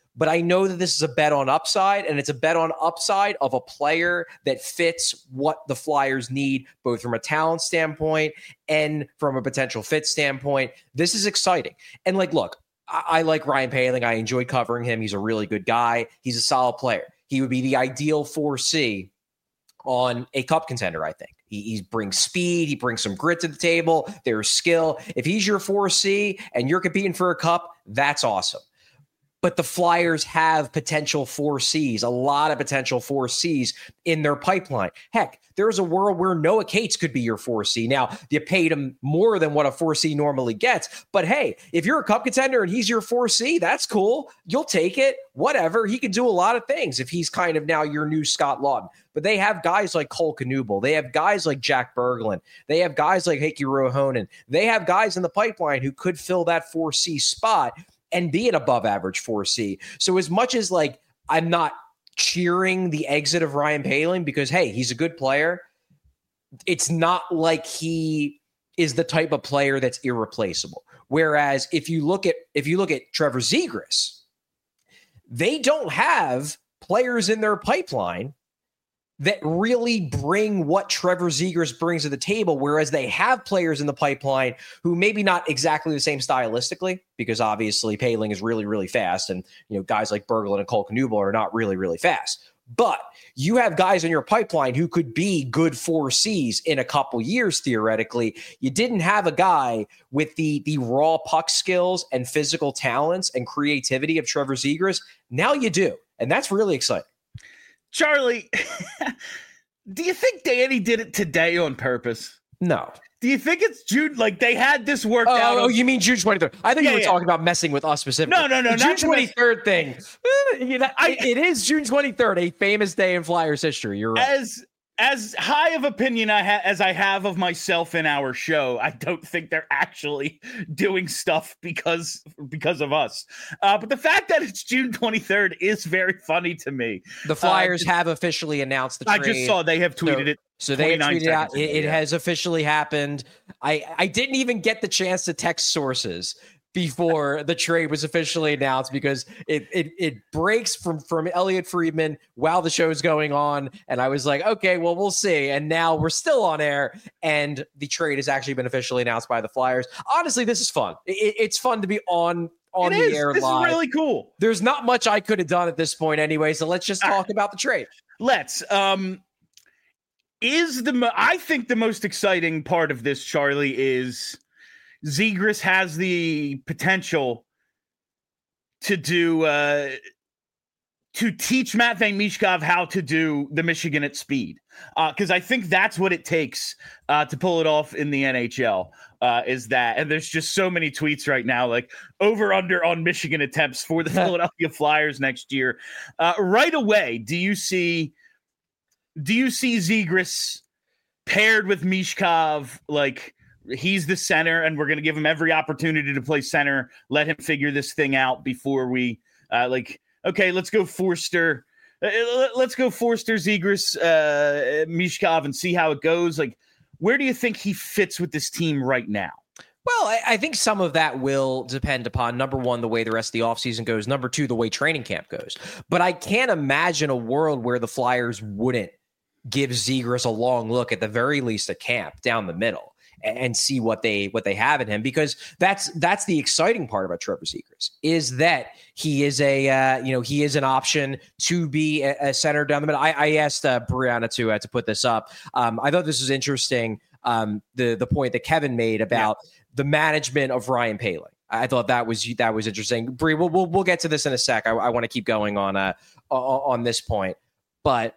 but I know that this is a bet on upside, and it's a bet on upside of a player that fits what the Flyers need, both from a talent standpoint and from a potential fit standpoint. This is exciting. And like, look, I, I like Ryan Poehling. I enjoyed covering him. He's a really good guy. He's a solid player. He would be the ideal four C on a cup contender, I think. He, he brings speed. He brings some grit to the table. There's skill. If he's your four C and you're competing for a cup, that's awesome. But the Flyers have potential four Cs, a lot of potential four Cs in their pipeline. Heck, there's a world where Noah Cates could be your four C. Now, you paid him more than what a four C normally gets. But hey, if you're a cup contender and he's your four C, that's cool. You'll take it. Whatever. He can do a lot of things if he's kind of now your new Scott Laughton. But they have guys like Cole Knuble. They have guys like Jack Berglund. They have guys like Heikki Ruohonen. They have guys in the pipeline who could fill that four C spot and be an above average four C. So as much as like I'm not cheering the exit of Ryan Poehling because, hey, he's a good player, it's not like he is the type of player that's irreplaceable. Whereas if you look at if you look at Trevor Zegras, they don't have players in their pipeline that really bring what Trevor Zegras brings to the table, whereas they have players in the pipeline who maybe not exactly the same stylistically, because obviously Poehling is really, really fast, and you know guys like Berglund and Cole Knuble are not really, really fast. But you have guys in your pipeline who could be good four Cs in a couple years, theoretically. You didn't have a guy with the, the raw puck skills and physical talents and creativity of Trevor Zegras. Now you do, and that's really exciting. Charlie, do you think Danny did it today on purpose? No. Do you think it's June? Like they had this worked oh, out? Oh, you mean June twenty-third? I think yeah, you were yeah. talking about messing with us specifically. No, no, no. The June twenty-third thing. you know, I, it is June twenty-third, a famous day in Flyers history. You're right. As as high of opinion I ha- as I have of myself in our show, I don't think they're actually doing stuff because because of us. Uh, but the fact that it's June twenty-third is very funny to me. The Flyers uh, have officially announced the trade. I just saw they have tweeted so, it. So they tweeted out, it, it has officially happened. I, I didn't even get the chance to text sources before the trade was officially announced because it it it breaks from, from Elliot Friedman while the show's going on. And I was like, okay, well, we'll see. And now we're still on air and the trade has actually been officially announced by the Flyers. Honestly, this is fun. It, it's fun to be on on it the is. air this live. This is really cool. There's not much I could have done at this point anyway. So let's just talk right. about the trade. Let's. Um, Is the I think the most exciting part of this, Charlie, is Zegras has the potential to do uh, to teach Matvei Michkov how to do the Michigan at speed, because uh, I think that's what it takes uh, to pull it off in the N H L. Uh, is that, and there's just so many tweets right now, like over under on Michigan attempts for the Philadelphia Flyers next year. Uh, right away, do you see? Do you see Zegras paired with Michkov? Like he's the center, and we're going to give him every opportunity to play center. Let him figure this thing out before we uh, like. Okay, let's go Forster. Uh, let's go Forster, Zegras, uh, Michkov, and see how it goes. Like, where do you think he fits with this team right now? Well, I, I think some of that will depend upon, number one, the way the rest of the offseason goes. Number two, the way training camp goes. But I can't imagine a world where the Flyers wouldn't give Zegras a long look, at the very least, at camp down the middle and, and see what they what they have in him, because that's that's the exciting part about Trevor Zegras, is that he is a uh, you know he is an option to be a, a center down the middle. I, I asked uh, Brianna to uh, to put this up. Um, I thought this was interesting. Um, the the point that Kevin made about yeah. the management of Ryan Poehling. I thought that was that was interesting. Bree, we'll we'll, we'll get to this in a sec. I, I want to keep going on uh on this point, but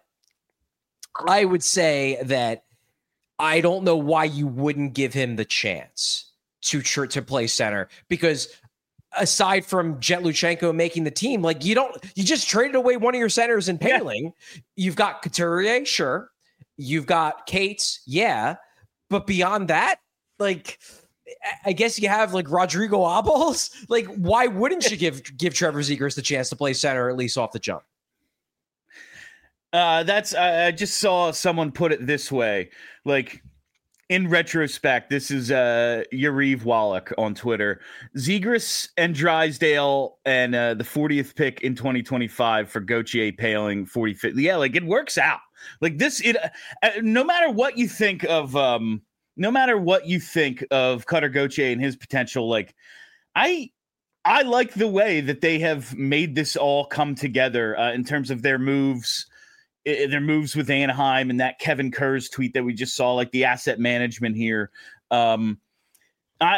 I would say that I don't know why you wouldn't give him the chance to tr- to play center, because aside from Jet Luchenko making the team, like you don't you just traded away one of your centers in Poehling. Yeah. You've got Couturier, sure. You've got Cates, yeah. But beyond that, like, I guess you have like Rodrigo Abels. Like, why wouldn't you give give Trevor Zegras the chance to play center, at least off the jump? Uh, that's uh, I just saw someone put it this way. Like, In retrospect, this is uh, Yariv Wallach on Twitter. Zegras and Drysdale and uh, the fortieth pick in twenty twenty-five for Gauthier Paling, forty-fifth. Yeah, like it works out. Like this, it. Uh, no matter what you think of, um, no matter what you think of Cutter Gauthier and his potential, like I, I like the way that they have made this all come together uh, in terms of their moves. Their moves with Anaheim and that Kevin Kurz tweet that we just saw, like the asset management here. Um, I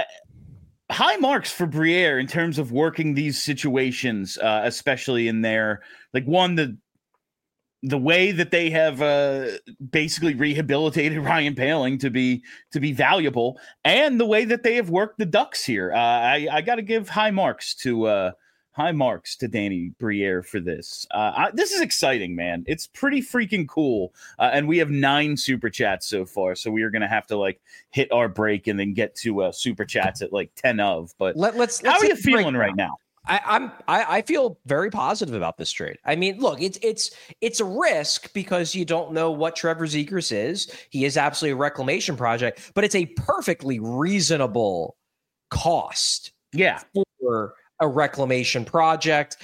high marks for Briere in terms of working these situations, uh, especially in their like one the the way that they have uh, basically rehabilitated Ryan Poehling to be to be valuable, and the way that they have worked the Ducks here. Uh, I, I got to give high marks to. Uh, High marks to Danny Briere for this. Uh, I, this is exciting, man. It's pretty freaking cool. Uh, and we have nine super chats so far. So we are going to have to like hit our break and then get to uh, super chats at like ten of. But Let, let's, how let's are you feeling right now? I, I'm I, I feel very positive about this trade. I mean, look, it's it's it's a risk because you don't know what Trevor Zegras is. He is absolutely a reclamation project, but it's a perfectly reasonable cost. Yeah. For a reclamation project.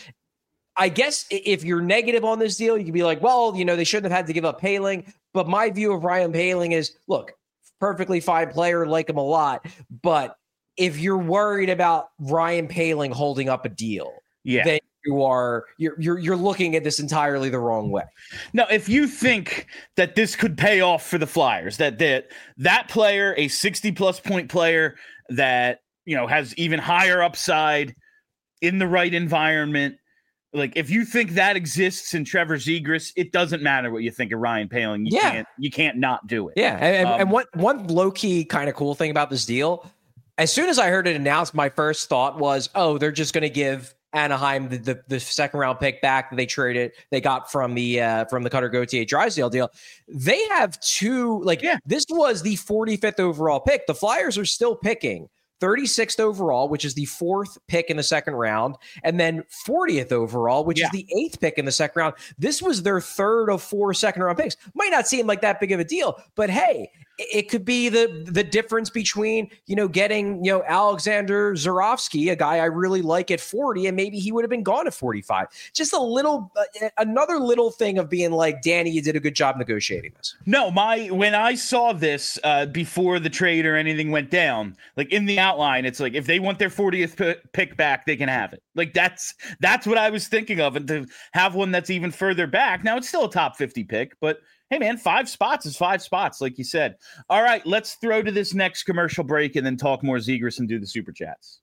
I guess if you're negative on this deal, you could be like, well, you know, they shouldn't have had to give up Poehling. But my view of Ryan Poehling is, look, perfectly fine player, like him a lot. But if you're worried about Ryan Poehling holding up a deal, yeah. then you are you're you're you're looking at this entirely the wrong way. Now, if you think that this could pay off for the Flyers, that that that player, a sixty plus point player that, you know, has even higher upside in the right environment, like if you think that exists in Trevor Zegras, it doesn't matter what you think of Ryan Poehling. You yeah. can't you can't not do it. Yeah, and, um, and what one low key kind of cool thing about this deal, as soon as I heard it announced, my first thought was, oh, they're just going to give Anaheim the, the the second round pick back that they traded, they got from the uh, from the Cutter Gauthier Drysdale deal. They have two, like yeah. this was the forty-fifth overall pick. The Flyers are still picking thirty-sixth overall, which is the fourth pick in the second round, and then fortieth overall, which yeah. is the eighth pick in the second round. This was their third of four second round picks. Might not seem like that big of a deal, but hey, it could be the the difference between, you know, getting, you know, Alexander Zurovsky, a guy I really like at forty, and maybe he would have been gone at forty-five. Just a little, uh, another little thing of being like, Danny, you did a good job negotiating this. No, my when I saw this uh, before the trade or anything went down, like in the outline, it's like if they want their fortieth p- pick back, they can have it. Like that's that's what I was thinking of, and to have one that's even further back. Now it's still a top fifty pick, but hey, man, five spots is five spots, like you said. All right, let's throw to this next commercial break and then talk more Zegras and do the super chats.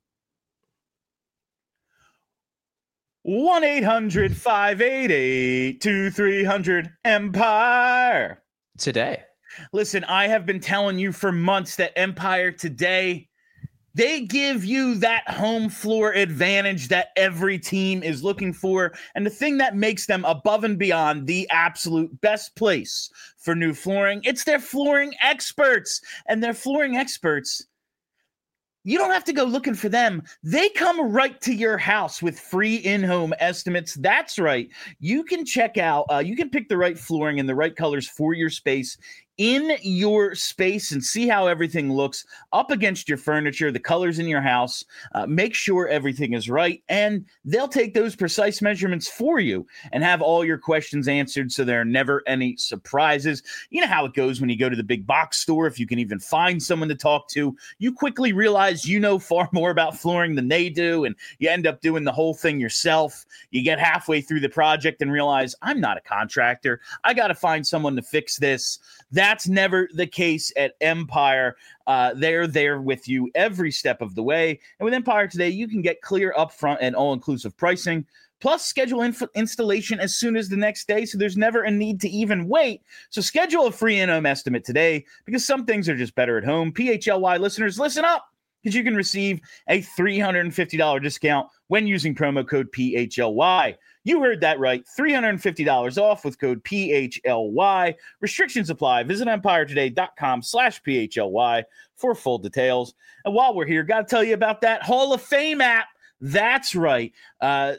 one eight hundred five eight eight two three hundred Empire. Today. Listen, I have been telling you for months that Empire Today, they give you that home floor advantage that every team is looking for. And the thing that makes them above and beyond the absolute best place for new flooring, it's their flooring experts. And their flooring experts, you don't have to go looking for them. They come right to your house with free in-home estimates. That's right. You can check out, uh, you can pick the right flooring and the right colors for your space in your space and see how everything looks up against your furniture, the colors in your house. Uh, make sure everything is right, and they'll take those precise measurements for you and have all your questions answered so there are never any surprises. You know how it goes when you go to the big box store. If you can even find someone to talk to, you quickly realize you know far more about flooring than they do, and you end up doing the whole thing yourself. You get halfway through the project and realize, I'm not a contractor. I got to find someone to fix this. That's never the case at Empire. Uh, they're there with you every step of the way. And with Empire Today, you can get clear upfront and all-inclusive pricing, plus schedule inf- installation as soon as the next day, so there's never a need to even wait. So schedule a free in-home estimate today, because some things are just better at home. P H L Y listeners, listen up, because you can receive a three hundred fifty dollars discount when using promo code P H L Y. You heard that right. three hundred fifty dollars off with code P H L Y. Restrictions apply. Visit empiretoday.com slash PHLY for full details. And while we're here, got to tell you about that Hall of Fame app. That's right. Uh,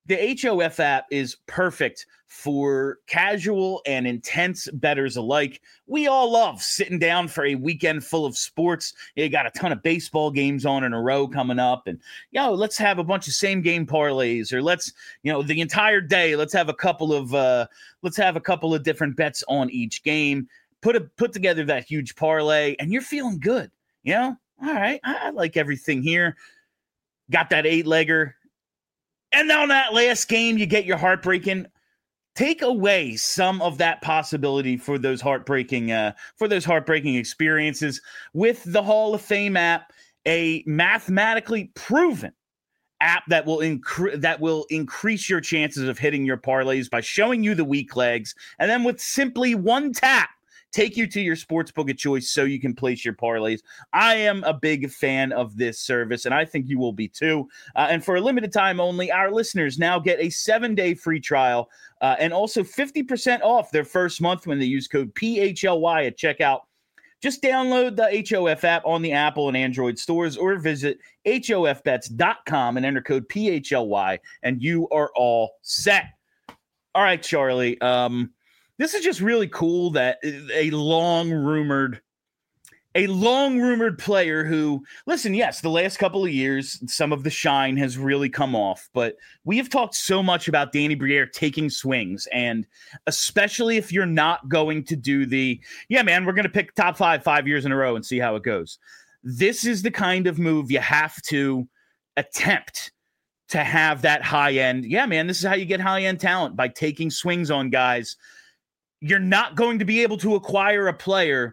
the H O F app is perfect for casual and intense bettors alike. We all love sitting down for a weekend full of sports. You got a ton of baseball games on in a row coming up, and yo, let's have a bunch of same game parlays, or let's, you know, the entire day, let's have a couple of uh, let's have a couple of different bets on each game. Put a put together that huge parlay, and you're feeling good. You know, all right, I, I like everything here. Got that eight legger, and on that last game, you get your heartbreaking. Take away some of that possibility for those heartbreaking, uh, for those heartbreaking experiences with the Hall of Fame app, a mathematically proven app that will incre- that will increase your chances of hitting your parlays by showing you the weak legs, and then with simply one tap, take you to your sportsbook of choice so you can place your parlays. I am a big fan of this service, and I think you will be too. Uh, and for a limited time only, our listeners now get a seven-day free trial uh, and also fifty percent off their first month when they use code P H L Y at checkout. Just download the H O F app on the Apple and Android stores or visit H O F bets dot com and enter code P H L Y, and you are all set. All right, Charlie. Um, This is just really cool that a long rumored, a long rumored player who, listen, yes, the last couple of years, some of the shine has really come off, but we have talked so much about Danny Briere taking swings, and especially if you're not going to do the, yeah, man, we're going to pick top five, five years in a row and see how it goes. This is the kind of move you have to attempt to have that high end. Yeah, man, this is how you get high end talent, by taking swings on guys. You're not going to be able to acquire a player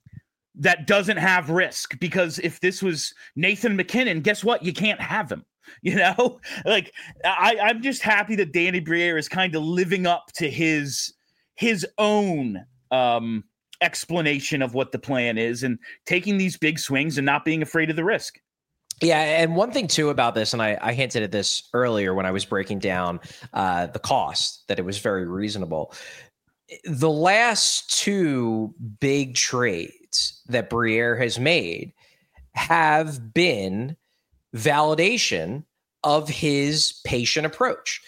that doesn't have risk, because if this was Nathan McKinnon, guess what? You can't have him. You know, like I, I'm just happy that Danny Briere is kind of living up to his his own um, explanation of what the plan is and taking these big swings and not being afraid of the risk. Yeah, and one thing too about this, and I, I hinted at this earlier when I was breaking down uh, the cost, that it was very reasonable. The last two big trades that Briere has made have been validation of his patient approach.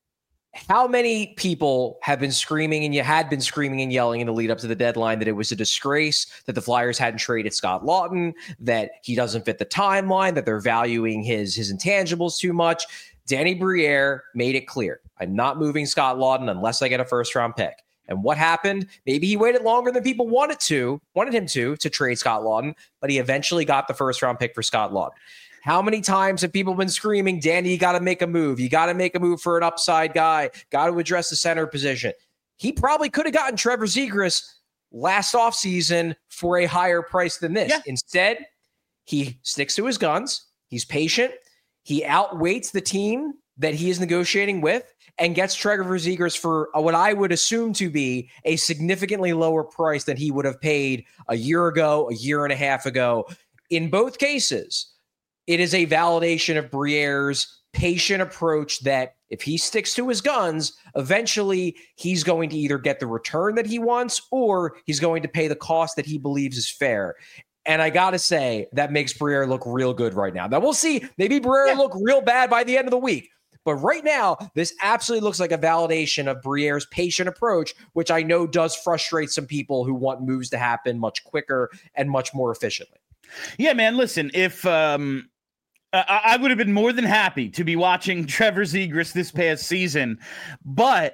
How many people have been screaming, and you had been screaming and yelling in the lead up to the deadline, that it was a disgrace that the Flyers hadn't traded Scott Laughton, that he doesn't fit the timeline, that they're valuing his, his intangibles too much? Danny Briere made it clear, I'm not moving Scott Laughton unless I get a first round pick. And what happened? Maybe he waited longer than people wanted to, wanted him to, to trade Scott Laughton, but he eventually got the first round pick for Scott Laughton. How many times have people been screaming, Danny, you got to make a move. You got to make a move for an upside guy. Got to address the center position. He probably could have gotten Trevor Zegras last offseason for a higher price than this. Yeah. Instead, he sticks to his guns. He's patient. He outweights the team that he is negotiating with and gets Trevor Zegras for what I would assume to be a significantly lower price than he would have paid a year ago, a year and a half ago. In both cases, it is a validation of Briere's patient approach that if he sticks to his guns, eventually he's going to either get the return that he wants or he's going to pay the cost that he believes is fair. And I got to say, that makes Briere look real good right now. Now, we'll see. Maybe Briere yeah. look real bad by the end of the week. But right now, this absolutely looks like a validation of Briere's patient approach, which I know does frustrate some people who want moves to happen much quicker and much more efficiently. Yeah, man, listen, if um, I, I would have been more than happy to be watching Trevor Zegras this past season, but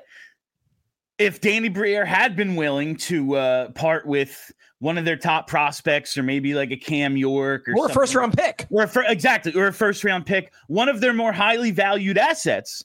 if Danny Briere had been willing to uh, part with one of their top prospects, or maybe like a Cam York, or, or a first round pick, or a fir- exactly, or a first round pick, one of their more highly valued assets,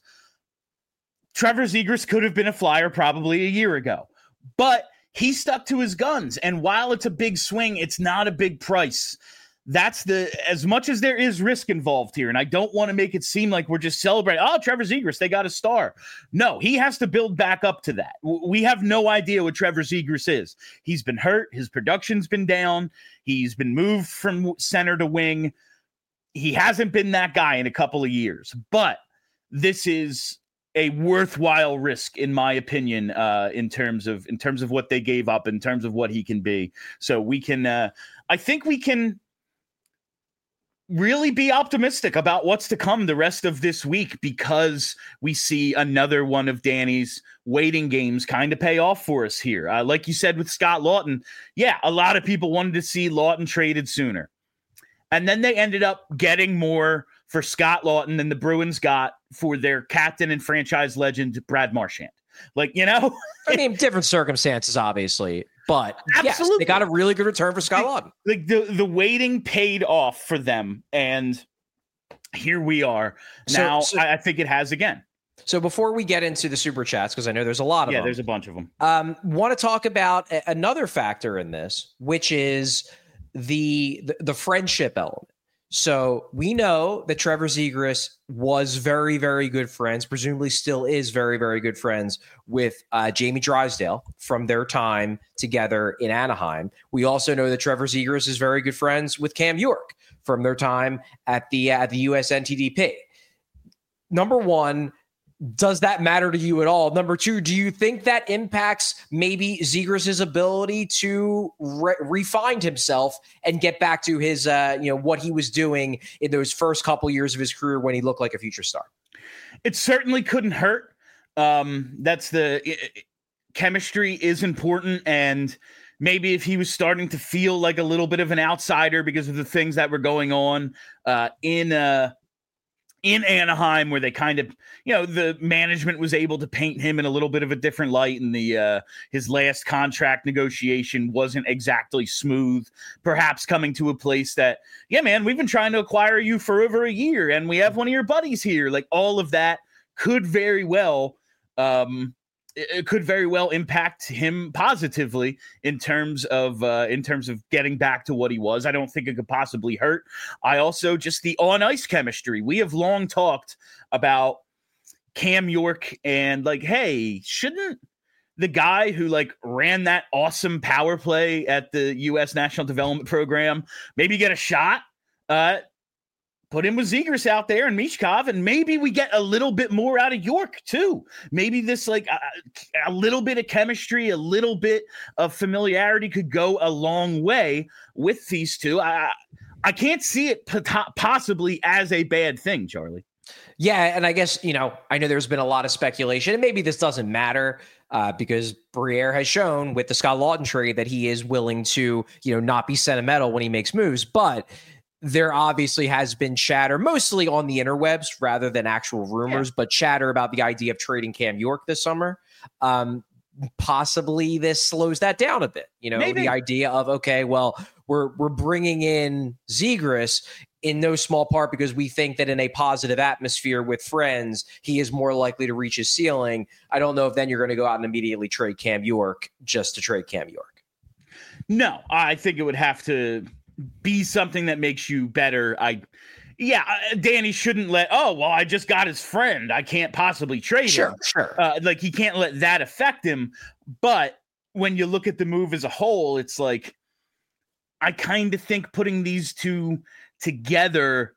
Trevor Zegras could have been a Flyer probably a year ago. But he stuck to his guns, and while it's a big swing, it's not a big price. That's the, as much as there is risk involved here, and I don't want to make it seem like we're just celebrating, oh, Trevor Zegras, they got a star. No, he has to build back up to that. We have no idea what Trevor Zegras is. He's been hurt. His production's been down. He's been moved from center to wing. He hasn't been that guy in a couple of years, but this is a worthwhile risk, in my opinion, uh, in terms of, in terms of what they gave up, in terms of what he can be. So we can, uh, I think we can, really be optimistic about what's to come the rest of this week, because we see another one of Danny's waiting games kind of pay off for us here. Uh, like you said with Scott Laughton, yeah, a lot of people wanted to see Laughton traded sooner. And then they ended up getting more for Scott Laughton than the Bruins got for their captain and franchise legend, Brad Marchand. Like, you know, I mean, different circumstances, obviously, but Absolutely. Yes, they got a really good return for Scott Laughton. Like the, the waiting paid off for them. And here we are now. So, so, I, I think it has again. So before we get into the super chats, because I know there's a lot of yeah, them. there's a bunch of them. Um, want to talk about a, another factor in this, which is the, the, the friendship element. So we know that Trevor Zegras was very, very good friends, presumably still is very, very good friends with uh, Jamie Drysdale from their time together in Anaheim. We also know that Trevor Zegras is very good friends with Cam York from their time at the, at the U S N T D P. Number one, does that matter to you at all? Number two, do you think that impacts maybe Zegras' ability to re- refine himself and get back to his, uh, you know, what he was doing in those first couple years of his career when he looked like a future star? It certainly couldn't hurt. Um, that's the it, chemistry is important. And maybe if he was starting to feel like a little bit of an outsider because of the things that were going on uh, in uh in Anaheim, where they kind of, you know, the management was able to paint him in a little bit of a different light, and the uh, his last contract negotiation wasn't exactly smooth, perhaps coming to a place that, yeah, man, we've been trying to acquire you for over a year, and we have one of your buddies here. Like, all of that could very well um, it could very well impact him positively in terms of uh, in terms of getting back to what he was. I don't think it could possibly hurt. I also just the on ice chemistry. We have long talked about Cam York and like, hey, shouldn't the guy who like ran that awesome power play at the U S National Development Program maybe get a shot? Uh, Put him with Zegras out there and Michkov, and maybe we get a little bit more out of York too. Maybe this like a, a little bit of chemistry, a little bit of familiarity could go a long way with these two. I I can't see it possibly as a bad thing, Charlie. Yeah, and I guess, you know, I know there's been a lot of speculation, and maybe this doesn't matter uh, because Briere has shown with the Scott Laughton trade that he is willing to, you know, not be sentimental when he makes moves, but there obviously has been chatter, mostly on the interwebs rather than actual rumors, yeah. but chatter about the idea of trading Cam York this summer. Um, possibly this slows that down a bit. You know, Maybe. the idea of, okay, well, we're we're bringing in Zegras in no small part because we think that in a positive atmosphere with friends, he is more likely to reach his ceiling. I don't know if then you're going to go out and immediately trade Cam York just to trade Cam York. No, I think it would have to be something that makes you better. I, yeah, Danny shouldn't let, oh, well, I just got his friend, I can't possibly trade sure, him. Sure, uh, like he can't let that affect him. But when you look at the move as a whole, it's like, I kind of think putting these two together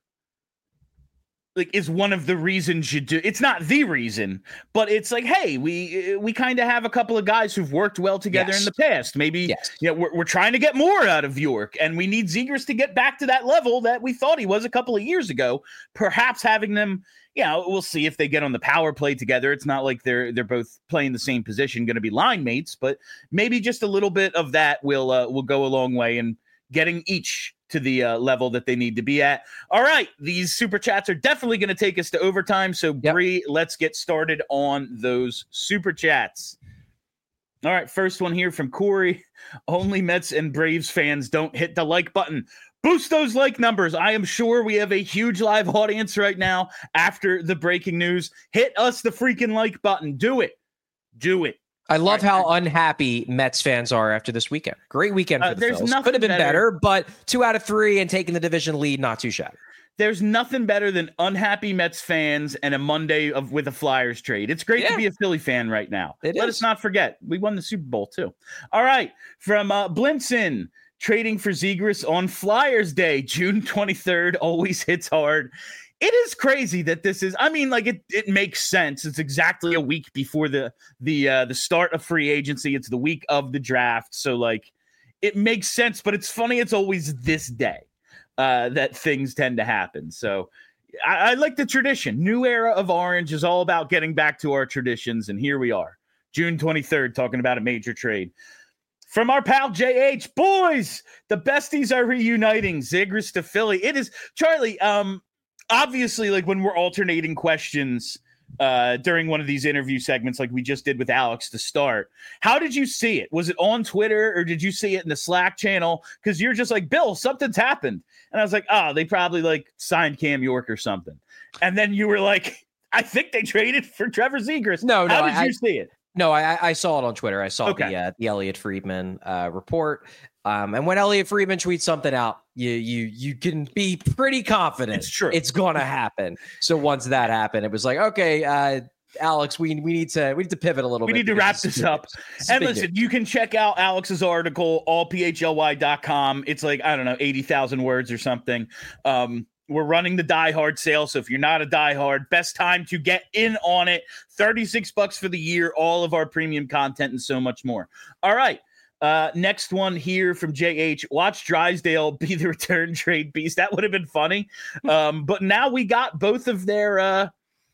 like is one of the reasons you do. It's not the reason, but it's like, hey, we we kind of have a couple of guys who've worked well together yes. in the past. Maybe yes. you know, we're we're trying to get more out of York, and we need Zegras to get back to that level that we thought he was a couple of years ago. Perhaps having them, you know, we'll see if they get on the power play together. It's not like they're they're both playing the same position, going to be line mates, but maybe just a little bit of that will uh, will go a long way in getting each to the uh, level that they need to be at. All right, these super chats are definitely going to take us to overtime. So, yep. Bree, let's get started on those super chats. All right, first one here from Corey. Only Mets and Braves fans don't hit the like button. Boost those like numbers. I am sure we have a huge live audience right now after the breaking news. Hit us the freaking like button. Do it. Do it. I love right. how unhappy Mets fans are after this weekend. Great weekend for uh, the Phils. Could have been better. better, but two out of three and taking the division lead, not too shabby. There's nothing better than unhappy Mets fans and a Monday of with a Flyers trade. It's great yeah. to be a Philly fan right now. It Let is. us not forget, we won the Super Bowl too. All right, from uh, Blinson, trading for Zegras on Flyers Day, June twenty-third, always hits hard. It is crazy that this is, I mean, like it, it makes sense. It's exactly a week before the, the, uh, the start of free agency. It's the week of the draft. So like it makes sense, but it's funny. It's always this day. uh, that things tend to happen. So I, I like the tradition. New era of Orange is all about getting back to our traditions. And here we are, June twenty-third, talking about a major trade. From our pal J H, boys, the besties are reuniting. Zegras to Philly. It is, Charlie, um, obviously, like when we're alternating questions uh, during one of these interview segments like we just did with Alex to start, how did you see it? Was it on Twitter or did you see it in the Slack channel? Because you're just like, Bill, something's happened. And I was like, oh, they probably like signed Cam York or something. And then you were like, I think they traded for Trevor Zegras. No, no. How did I, you see it? No, I, I saw it on Twitter. I saw okay. the uh, the Elliot Friedman uh, report, um, and when Elliot Friedman tweets something out, you you you can be pretty confident it's true. It's going to happen. So once that happened, it was like, okay, uh, Alex, we we need to we need to pivot a little we bit. We need to wrap this up. And listen, news. You can check out Alex's article, all p h l y dot com. It's like I don't know, eighty thousand words or something. Um, We're running the Die Hard sale, so if you're not a Die Hard, best time to get in on it. thirty-six bucks for the year, all of our premium content and so much more. All right, uh, next one here from J H. Watch Drysdale be the return trade beast. That would have been funny. Um, but now we got both of their, uh,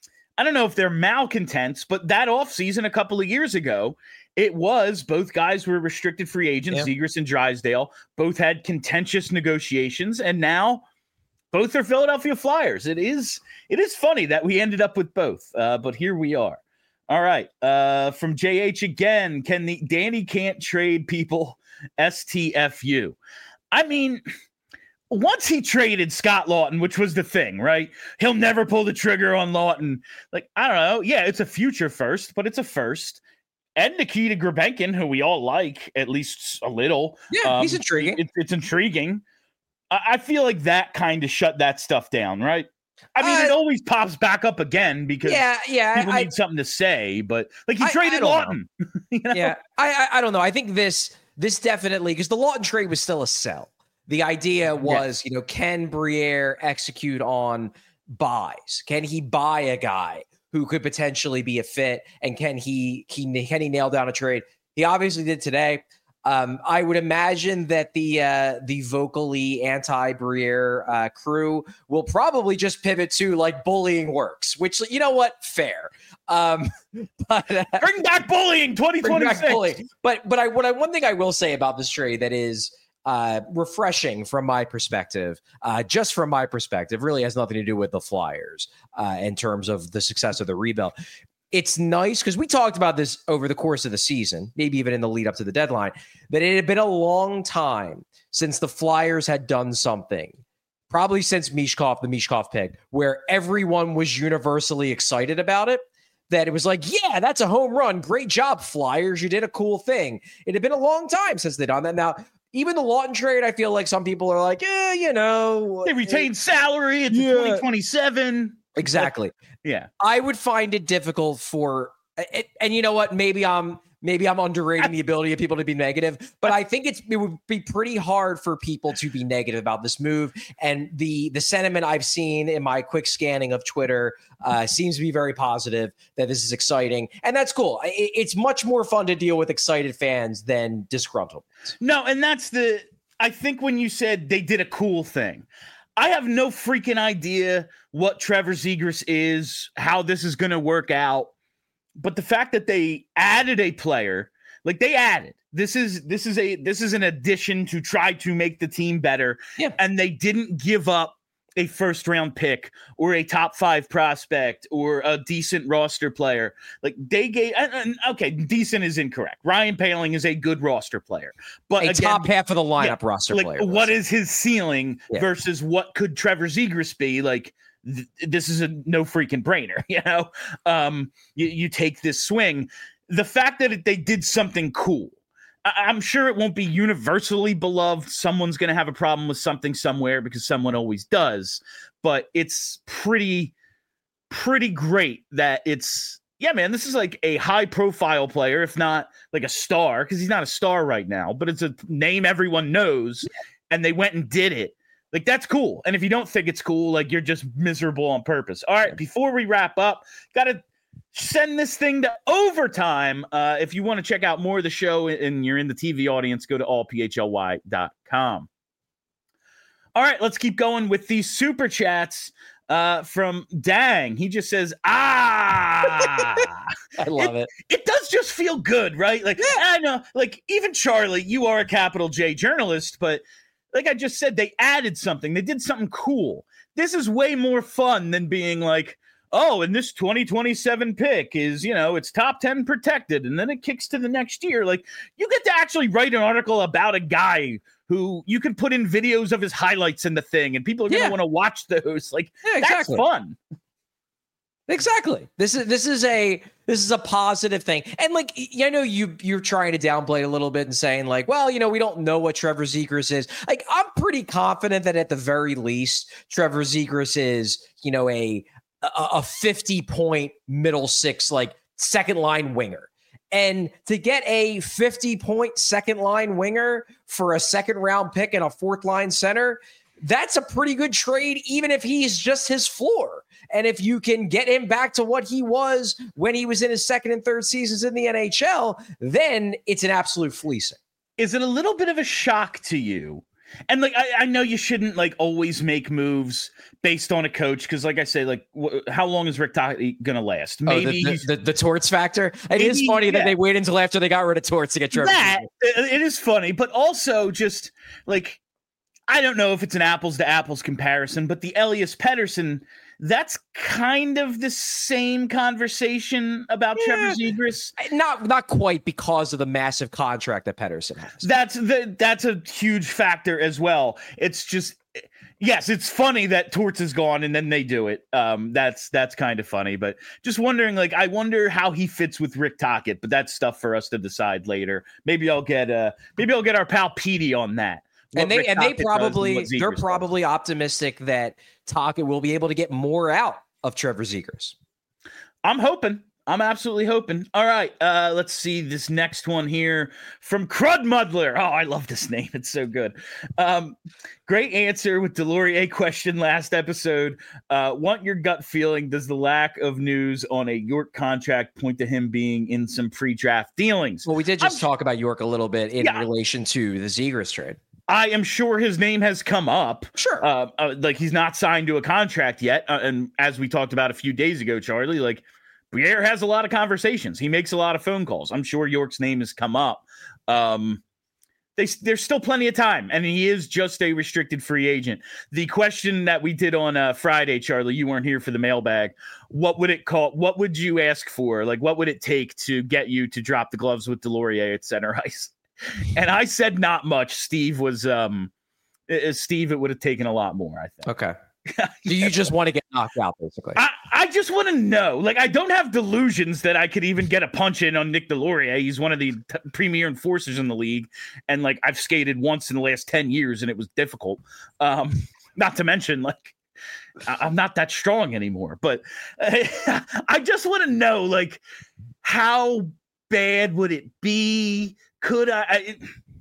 I don't know if they're malcontents, but that offseason a couple of years ago, it was both guys were restricted free agents, yeah. Zegras and Drysdale. Both had contentious negotiations, and now both are Philadelphia Flyers. It is it is funny that we ended up with both, uh, but here we are. All right. Uh, from J H again, can the Danny can't trade people S T F U? I mean, once he traded Scott Laughton, which was the thing, right? He'll never pull the trigger on Laughton. Like, I don't know. Yeah, it's a future first, but it's a first. And Nikita Grabenkin, who we all like, at least a little. Yeah, um, he's intriguing. It, it's intriguing. I feel like that kind of shut that stuff down, right? I mean, uh, it always pops back up again because yeah, yeah, people I, need something to say. But like he I, traded I Laughton. you know? Yeah, I, I I don't know. I think this this definitely because the Laughton trade was still a sell. The idea was, yeah. you know, can Briere execute on buys? Can he buy a guy who could potentially be a fit? And can he he can he nail down a trade? He obviously did today. Um, I would imagine that the uh, the vocally anti-Briere uh, crew will probably just pivot to like bullying works, which you know what, fair. Um, but uh, bring back bullying, twenty twenty-six. Back bullying. But but I what I one thing I will say about this trade that is uh, refreshing from my perspective, uh, just from my perspective, really has nothing to do with the Flyers uh, in terms of the success of the rebuild. It's nice because we talked about this over the course of the season, maybe even in the lead up to the deadline, that it had been a long time since the Flyers had done something, probably since Mishkov, the Mishkov pick, where everyone was universally excited about it, that it was like, yeah, that's a home run. Great job, Flyers. You did a cool thing. It had been a long time since they'd done that. Now, even the Laughton trade, I feel like some people are like, yeah, you know. They retained salary. It's yeah. twenty twenty-seven. Exactly. Yeah. I would find it difficult for, and, and you know what, maybe I'm, maybe I'm underrating the ability of people to be negative, but I think it's, it would be pretty hard for people to be negative about this move. And the, the sentiment I've seen in my quick scanning of Twitter uh, seems to be very positive that this is exciting. And that's cool. It, it's much more fun to deal with excited fans than disgruntled. No. And that's the, I think when you said they did a cool thing, I have no freaking idea what Trevor Zegras is, how this is going to work out. But the fact that they added a player, like they added, this is this is a this is an addition to try to make the team better. Yeah. And they didn't give up a first round pick or a top five prospect or a decent roster player. Like they gave, and, and, okay, decent is incorrect. Ryan Poehling is a good roster player, but a again, top half of the lineup yeah, roster like, player. What is his ceiling yeah. versus what could Trevor Zegras be? Like th- this is a no freaking brainer. You know, um, you, you take this swing. The fact that it, they did something cool. I'm sure it won't be universally beloved. Someone's going to have a problem with something somewhere because someone always does. But it's pretty, pretty great that it's, yeah, man, this is like a high profile player, if not like a star, because he's not a star right now, but it's a name everyone knows. And they went and did it. Like, that's cool. And if you don't think it's cool, like you're just miserable on purpose. All right, before we wrap up, got to send this thing to overtime. Uh, if you want to check out more of the show and you're in the T V audience, go to all p h l y dot com. All All right, let's keep going with these super chats uh, from Dang. He just says, ah. I love it, it. It does just feel good, right? Like, yeah. I know, like, even Charlie, you are a capital J journalist, but like I just said, they added something. They did something cool. This is way more fun than being like, oh, and this twenty twenty-seven pick is, you know, it's top ten protected, and then it kicks to the next year. Like, you get to actually write an article about a guy who you can put in videos of his highlights in the thing, and people are going to yeah. want to watch those. Like, yeah, exactly. That's fun. Exactly. This is this is a this is a positive thing. And like, I know you you're trying to downplay it a little bit and saying like, well, you know, we don't know what Trevor Zegras is. Like, I'm pretty confident that at the very least, Trevor Zegras is, you know, a a fifty point middle six, like second line winger. And to get a fifty point second line winger for a second round pick and a fourth line center, that's a pretty good trade, even if he's just his floor. And if you can get him back to what he was when he was in his second and third seasons in the N H L, then it's an absolute fleecing. Is it a little bit of a shock to you? And like, I, I know you shouldn't like always make moves based on a coach. Cause like I say, like wh- how long is Rick Tocchet going to last? Maybe oh, the, the, the, the Torts factor. It maybe, is funny yeah. that they waited until after they got rid of Torts to get Trevor. That it is funny, but also just like, I don't know if it's an apples to apples comparison, but the Elias Pettersson, that's kind of the same conversation about yeah. Trevor Zegras. Not not quite, because of the massive contract that Pettersson has. That's the that's a huge factor as well. It's just, yes, it's funny that Torts is gone and then they do it. Um, that's that's kind of funny, but just wondering, like, I wonder how he fits with Rick Tocchet, but that's stuff for us to decide later. Maybe I'll get uh maybe I'll get our pal Petey on that. What and they Rick and Tocchet they probably and they're probably does. optimistic that Tocchet will be able to get more out of Trevor Zegras. I'm hoping. I'm absolutely hoping. All right, uh, let's see this next one here from Crud Muddler. Oh, I love this name. It's so good. Um, great answer with Delorier question last episode. Uh, want your gut feeling? Does the lack of news on a York contract point to him being in some pre-draft dealings? Well, we did just I'm, talk about York a little bit in yeah. relation to the Zegras trade. I am sure his name has come up. Sure. Uh, uh, like, he's not signed to a contract yet. Uh, and as we talked about a few days ago, Charlie, like, Briere has a lot of conversations. He makes a lot of phone calls. I'm sure York's name has come up. Um, they, there's still plenty of time, and he is just a restricted free agent. The question that we did on uh, Friday, Charlie, you weren't here for the mailbag. What would it call? What would you ask for? Like, what would it take to get you to drop the gloves with Delorier at center ice? And I said not much. Steve was um, Steve. It would have taken a lot more, I think. Okay. Do you just want to get knocked out, basically? I, I just want to know. Like, I don't have delusions that I could even get a punch in on Nick Delorier. He's one of the t- premier enforcers in the league, and like I've skated once in the last ten years, and it was difficult. Um, not to mention, like, I, I'm not that strong anymore. But uh, I just want to know, like, how bad would it be? Could I, I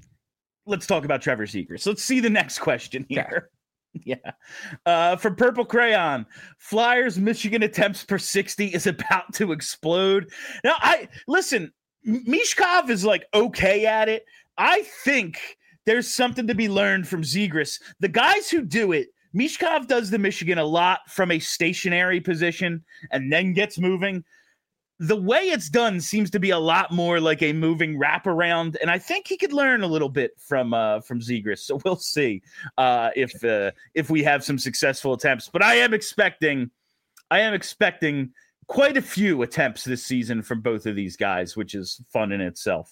let's talk about Trevor Zegras. Let's see the next question here. Okay. Yeah. Uh, from Purple Crayon, Flyers Michigan attempts per sixty is about to explode. Now, I listen, Mishkov is like okay at it. I think there's something to be learned from Zegras. The guys who do it, Mishkov does the Michigan a lot from a stationary position and then gets moving. The way it's done seems to be a lot more like a moving wraparound, and I think he could learn a little bit from uh, from Zegras. So we'll see uh, if uh, if we have some successful attempts. But I am expecting, I am expecting quite a few attempts this season from both of these guys, which is fun in itself.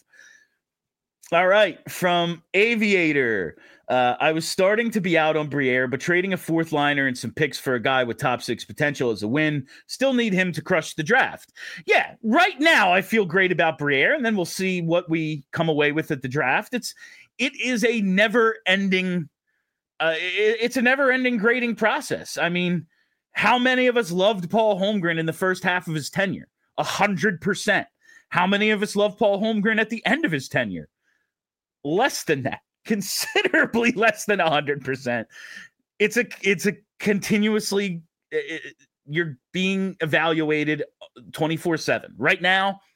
All right, from Aviator. Uh, I was starting to be out on Briere, but trading a fourth liner and some picks for a guy with top six potential is a win. Still need him to crush the draft. Yeah, right now I feel great about Briere, and then we'll see what we come away with at the draft. It's it is a never-ending, uh, it, it's a never-ending grading process. I mean, how many of us loved Paul Holmgren in the first half of his tenure? A hundred percent. How many of us loved Paul Holmgren at the end of his tenure? Less than that. Considerably less than one hundred percent. It's a it's a continuously it, you're being evaluated twenty-four seven. Right now,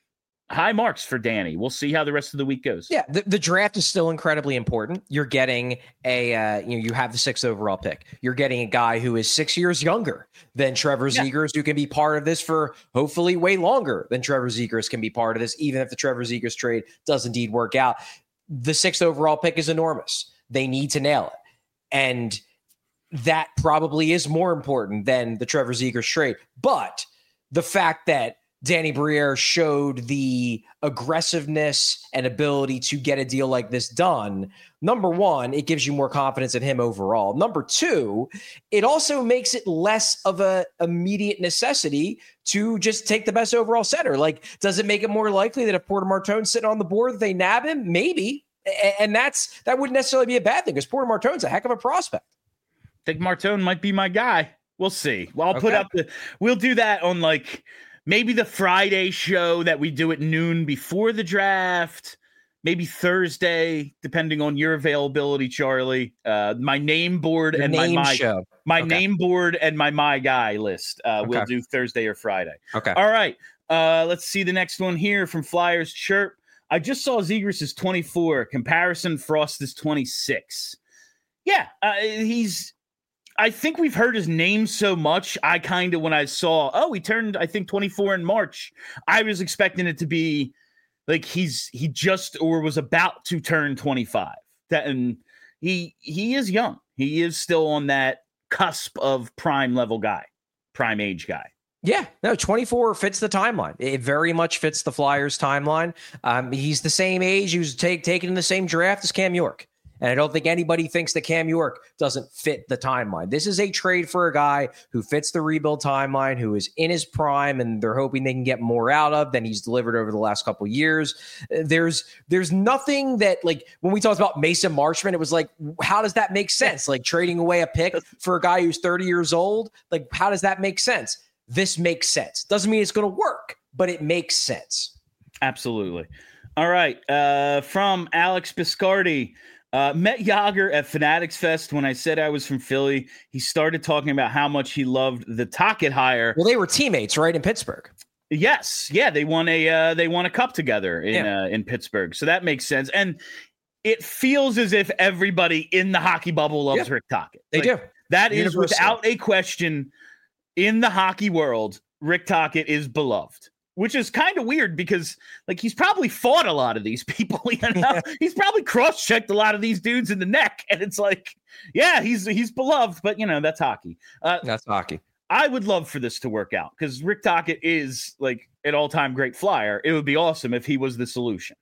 high marks for Danny. We'll see how the rest of the week goes. Yeah, the, the draft is still incredibly important. You're getting a, uh, you know, you have the sixth overall pick. You're getting a guy who is six years younger than Trevor Yeah. Zegras, who can be part of this for hopefully way longer than Trevor Zegras can be part of this, even if the Trevor Zegras trade does indeed work out. The sixth overall pick is enormous. They need to nail it. And that probably is more important than the Trevor Zegras trade. But the fact that Danny Briere showed the aggressiveness and ability to get a deal like this done, number one, it gives you more confidence in him overall. Number two, it also makes it less of a immediate necessity to just take the best overall center. Like, does it make it more likely that if Porter Martone's sitting on the board, that they nab him? Maybe. And that's that wouldn't necessarily be a bad thing because Porter Martone's a heck of a prospect. I think Martone might be my guy. We'll see. Well, I'll Okay. put up the, we'll do that on like maybe the Friday show that we do at noon before the draft, maybe Thursday, depending on your availability, Charlie. Uh, my name board Your and name my, my, show. my Okay. name board and my, my guy list. Uh, we'll Okay. do Thursday or Friday. Okay. All right. Uh, let's see the next one here from Flyers Chirp. I just saw Zegras is twenty-four. Comparison, Frost is twenty-six. Yeah, uh, he's. I think we've heard his name so much. I kind of, when I saw, oh, he turned, I think, twenty-four in March. I was expecting it to be like he's he just or was about to turn twenty-five. That and he he is young. He is still on that cusp of prime level guy, prime age guy. Yeah, no, twenty-four fits the timeline. It very much fits the Flyers timeline. Um, he's the same age. He was take, taken in the same draft as Cam York. And I don't think anybody thinks that Cam York doesn't fit the timeline. This is a trade for a guy who fits the rebuild timeline, who is in his prime, and they're hoping they can get more out of than he's delivered over the last couple of years. There's there's nothing that, like, when we talked about Mason Marchment, it was like, how does that make sense? Like, trading away a pick for a guy who's thirty years old? Like, how does that make sense? This makes sense. Doesn't mean it's going to work, but it makes sense. Absolutely. All right. Uh, from Alex Biscardi. Uh, met Yager at Fanatics Fest when I said I was from Philly. He started talking about how much he loved the Tocchet hire. Well, they were teammates, right, in Pittsburgh. Yes, yeah, they won a uh, they won a cup together in Yeah. uh, in Pittsburgh, so that makes sense. And it feels as if everybody in the hockey bubble loves Yeah. Rick Tocchet. They Like, do. That is Universal. without a question. In the hockey world, Rick Tocchet is beloved. Which is kind of weird because, like, he's probably fought a lot of these people. You know? Yeah. He's probably cross-checked a lot of these dudes in the neck, and it's like, yeah, he's he's beloved, but you know that's hockey. Uh, That's hockey. I would love for this to work out because Rick Tocchet is like an all-time great Flyer. It would be awesome if he was the solution.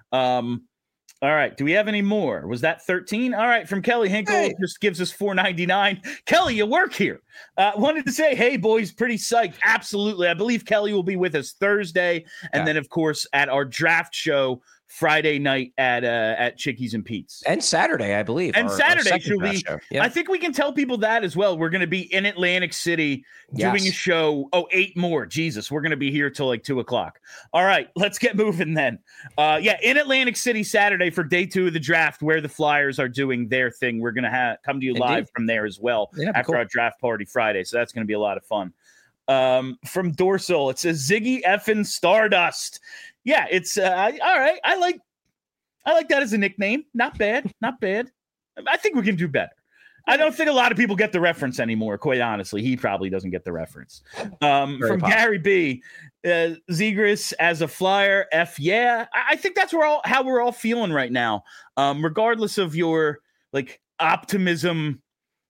Um, all right, do we have any more? Was that thirteen? All right, from Kelly Hinkle, Hey. just gives us four ninety-nine. Kelly, you work here. Uh, wanted to say, hey, boys, pretty psyched. Absolutely. I believe Kelly will be with us Thursday. And Yeah. then, of course, at our draft show Friday night at uh, at Chickies and Pete's. And Saturday, I believe. And our- our Saturday second she'll draft be. show. Yeah. I think we can tell people that as well. We're going to be in Atlantic City doing Yes. a show. Oh, eight more. Jesus, we're going to be here till like two o'clock. All right, let's get moving then. Uh, yeah, in Atlantic City Saturday for day two of the draft, where the Flyers are doing their thing. We're going to have come to you live Indeed. from there as well Yeah, after cool. our draft party Friday. So that's going to be a lot of fun. Um, from Dorsal, it says Ziggy effing Stardust. Yeah, it's uh, I- all right. I like. I like that as a nickname. Not bad. Not bad. I think we can do better. I don't think a lot of people get the reference anymore, quite honestly. He probably doesn't get the reference. Um, Very from possible. Gary B. Uh, Zegras as a Flyer, F yeah. I, I think that's where all how we're all feeling right now. Um, regardless of your like optimism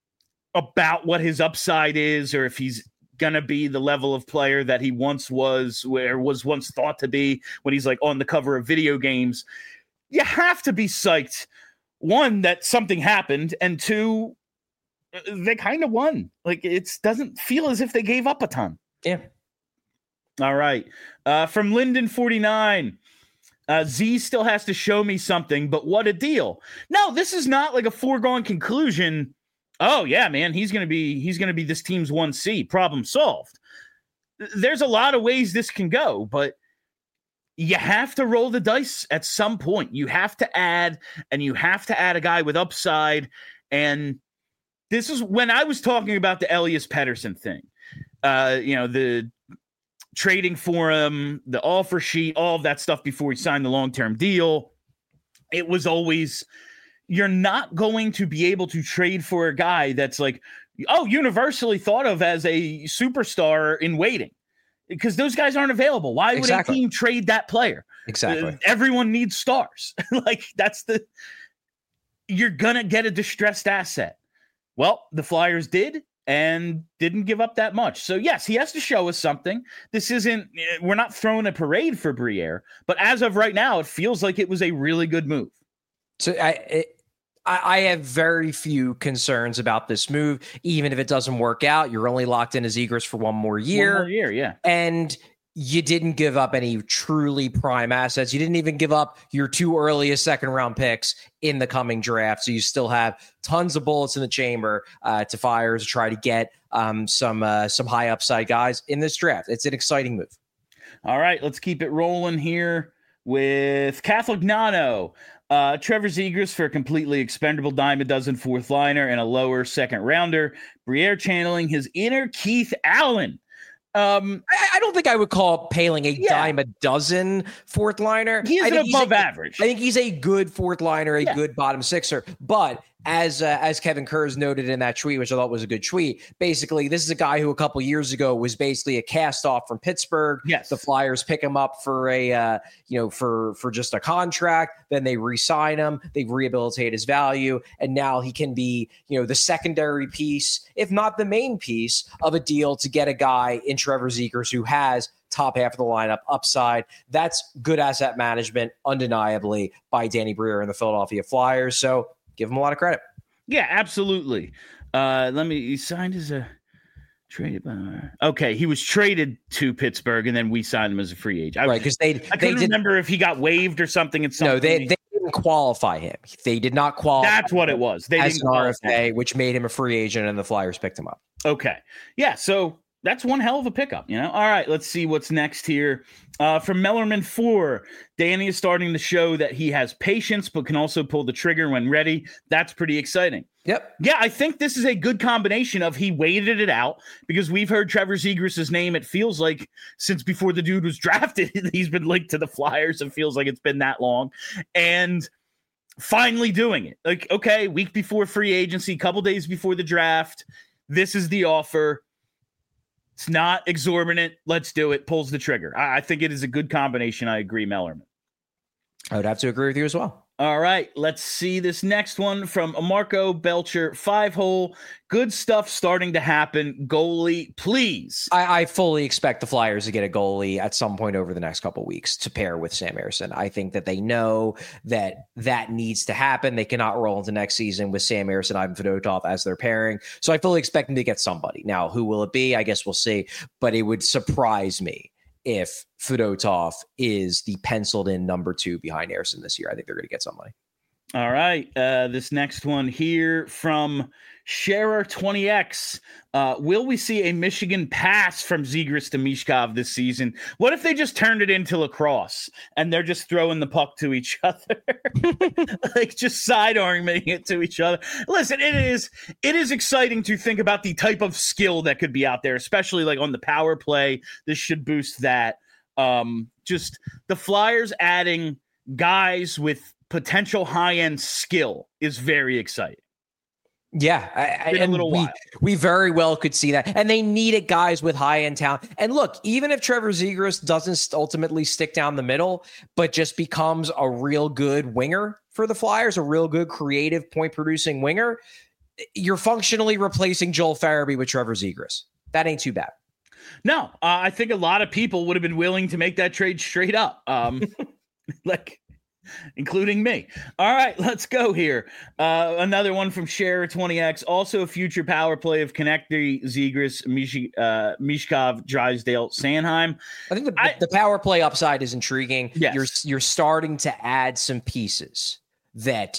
about what his upside is, or if he's gonna be the level of player that he once was, where was once thought to be when he's like on the cover of video games. You have to be psyched. One, that something happened, and two, they kind of won. Like, it doesn't feel as if they gave up a ton. Yeah. All right. Uh, from Linden forty-nine. Uh, Z still has to show me something, but what a deal. No, this is not like a foregone conclusion. Oh, yeah, man, he's going to be he's going to be this team's one C. Problem solved. There's a lot of ways this can go, but you have to roll the dice at some point. You have to add, and you have to add a guy with upside. And this is when I was talking about the Elias Pettersson thing. Uh, you know, the trading for him, the offer sheet, all of that stuff before he signed the long-term deal. It was always, you're not going to be able to trade for a guy that's like, oh, universally thought of as a superstar in waiting, because those guys aren't available. Why would exactly. a team trade that player? Exactly. Uh, everyone needs stars. Like, that's the, you're going to get a distressed asset. Well, the Flyers did and didn't give up that much. So yes, he has to show us something. This isn't, we're not throwing a parade for Briere, but as of right now, it feels like it was a really good move. So I, it, I have very few concerns about this move. Even if it doesn't work out, you're only locked in as Zegras for one more year. One more year, yeah. And you didn't give up any truly prime assets. You didn't even give up your two earliest second round picks in the coming draft. So you still have tons of bullets in the chamber uh, to fire to try to get um, some uh, some high upside guys in this draft. It's an exciting move. All right, let's keep it rolling here with Catholic Nano. Uh, Trevor Zegras for a completely expendable dime a dozen fourth liner and a lower second rounder. Briere channeling his inner Keith Allen. Um, I, I don't think I would call Poehling a yeah. dime a dozen fourth liner. He is I an think above a, average. I think he's a good fourth liner, a yeah. good bottom sixer. But as uh, as Kevin Kurz noted in that tweet, which I thought was a good tweet, basically this is a guy who a couple years ago was basically a cast off from Pittsburgh. Yes, the Flyers pick him up for a uh, you know for for just a contract. Then they re-sign him. They rehabilitate his value, and now he can be you know the secondary piece, if not the main piece, of a deal to get a guy in Trevor Zegras who has top half of the lineup upside. That's good asset management, undeniably, by Danny Briere and the Philadelphia Flyers. So give him a lot of credit. Yeah, absolutely. Uh, let me, he signed as a traded by, okay. He was traded to Pittsburgh and then we signed him as a free agent. I, right. Cause they, I couldn't they remember if he got waived or something. It's no, they, they didn't qualify him. They did not qualify. That's what it was. They as didn't an R F A, which made him a free agent and the Flyers picked him up. Okay. Yeah. So that's one hell of a pickup, you know? All right, let's see what's next here. Uh, from Mellerman four, Danny is starting to show that he has patience, but can also pull the trigger when ready. That's pretty exciting. Yep. Yeah, I think this is a good combination of he waited it out, because we've heard Trevor Zegras' name, it feels like, since before the dude was drafted. He's been linked to the Flyers. It feels like it's been that long. And finally doing it. Like, okay, week before free agency, couple days before the draft, this is the offer. It's not exorbitant. Let's do it. Pulls the trigger. I, I think it is a good combination. I agree, Mellerman. I would have to agree with you as well. All right, let's see this next one from Marco Belcher, five hole. Good stuff starting to happen. Goalie, please. I, I fully expect the Flyers to get a goalie at some point over the next couple of weeks to pair with Sam Ersson. I think that they know that that needs to happen. They cannot roll into next season with Sam Ersson, Ivan Fedotov as their pairing. So I fully expect them to get somebody. Now, who will it be? I guess we'll see. But it would surprise me if Fedotov is the penciled in number two behind Ersson this year. I think they're going to get somebody. All right. Uh, this next one here from Sharer twenty X. Uh, will we see a Michigan pass from Zegras to Mishkov this season? What if they just turned it into lacrosse and they're just throwing the puck to each other? Like just sidearming it to each other. Listen, it is it is exciting to think about the type of skill that could be out there, especially like on the power play. This should boost that. Um, just the Flyers adding guys with potential high-end skill is very exciting. Yeah, I, in a little we, while. we very well could see that. And they needed guys with high-end talent. And look, even if Trevor Zegras doesn't ultimately stick down the middle, but just becomes a real good winger for the Flyers, a real good creative point-producing winger, you're functionally replacing Joel Farabee with Trevor Zegras. That ain't too bad. No, uh, I think a lot of people would have been willing to make that trade straight up. Um, like... including me. All right, let's go here. Uh, another one from Share twenty X. Also a future power play of Konecny, Zegras, Mish- uh, Mishkov, Drysdale, Sanheim. I think the, I, the power play upside is intriguing. Yes. You're, you're starting to add some pieces that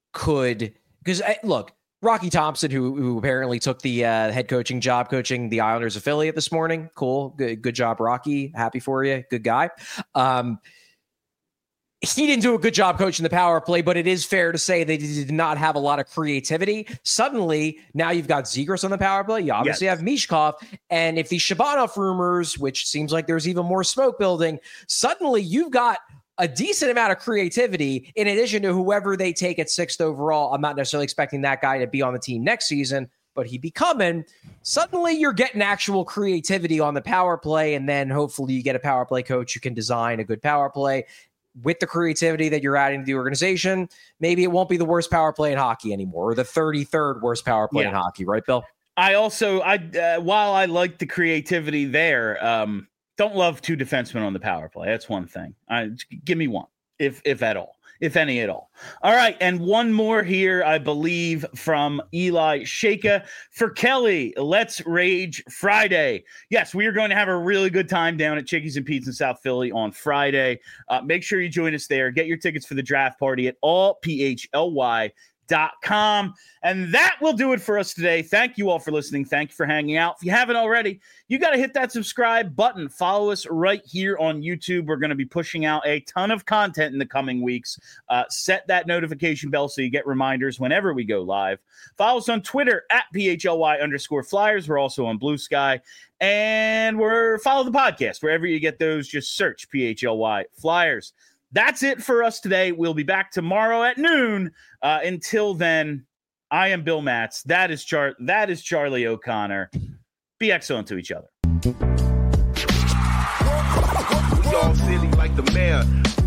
could – because, look, Rocky Thompson, who who apparently took the uh, head coaching job coaching the Islanders affiliate this morning. Cool. Good, good job, Rocky. Happy for you. Good guy. Um he didn't do a good job coaching the power play, but it is fair to say they did not have a lot of creativity. Suddenly, now you've got Zegras on the power play. You obviously yes. have Michkov. And if the Shabanov rumors, which seems like there's even more smoke building, suddenly you've got a decent amount of creativity in addition to whoever they take at sixth overall. I'm not necessarily expecting that guy to be on the team next season, but he'd be coming. Suddenly you're getting actual creativity on the power play, and then hopefully you get a power play coach who can design a good power play. With the creativity that you're adding to the organization, maybe it won't be the worst power play in hockey anymore, or the thirty-third worst power play yeah. in hockey, right, Bill? I also, I uh, while I like the creativity there, um, don't love two defensemen on the power play. That's one thing. I, give me one, if if at all. If any at all. All right, and one more here, I believe, from Eli Shaka. For Kelly, Let's Rage Friday. Yes, we are going to have a really good time down at Chickies and Pete's in South Philly on Friday. Uh, make sure you join us there. Get your tickets for the draft party at all p h l y dot com. And that will do it for us today. Thank you all for listening. Thank you for hanging out. If you haven't already, you got to hit that subscribe button. Follow us right here on YouTube. We're going to be pushing out a ton of content in the coming weeks. Uh, set that notification bell so you get reminders whenever we go live. Follow us on Twitter at P H L Y underscore Flyers. We're also on Blue Sky. And we're follow the podcast. Wherever you get those, just search P H L Y Flyers. That's it for us today. We'll be back tomorrow at noon. Uh, until then, I am Bill Matz. That is Char. That is Charlie O'Connor. Be excellent to each other. We all silly like the mayor.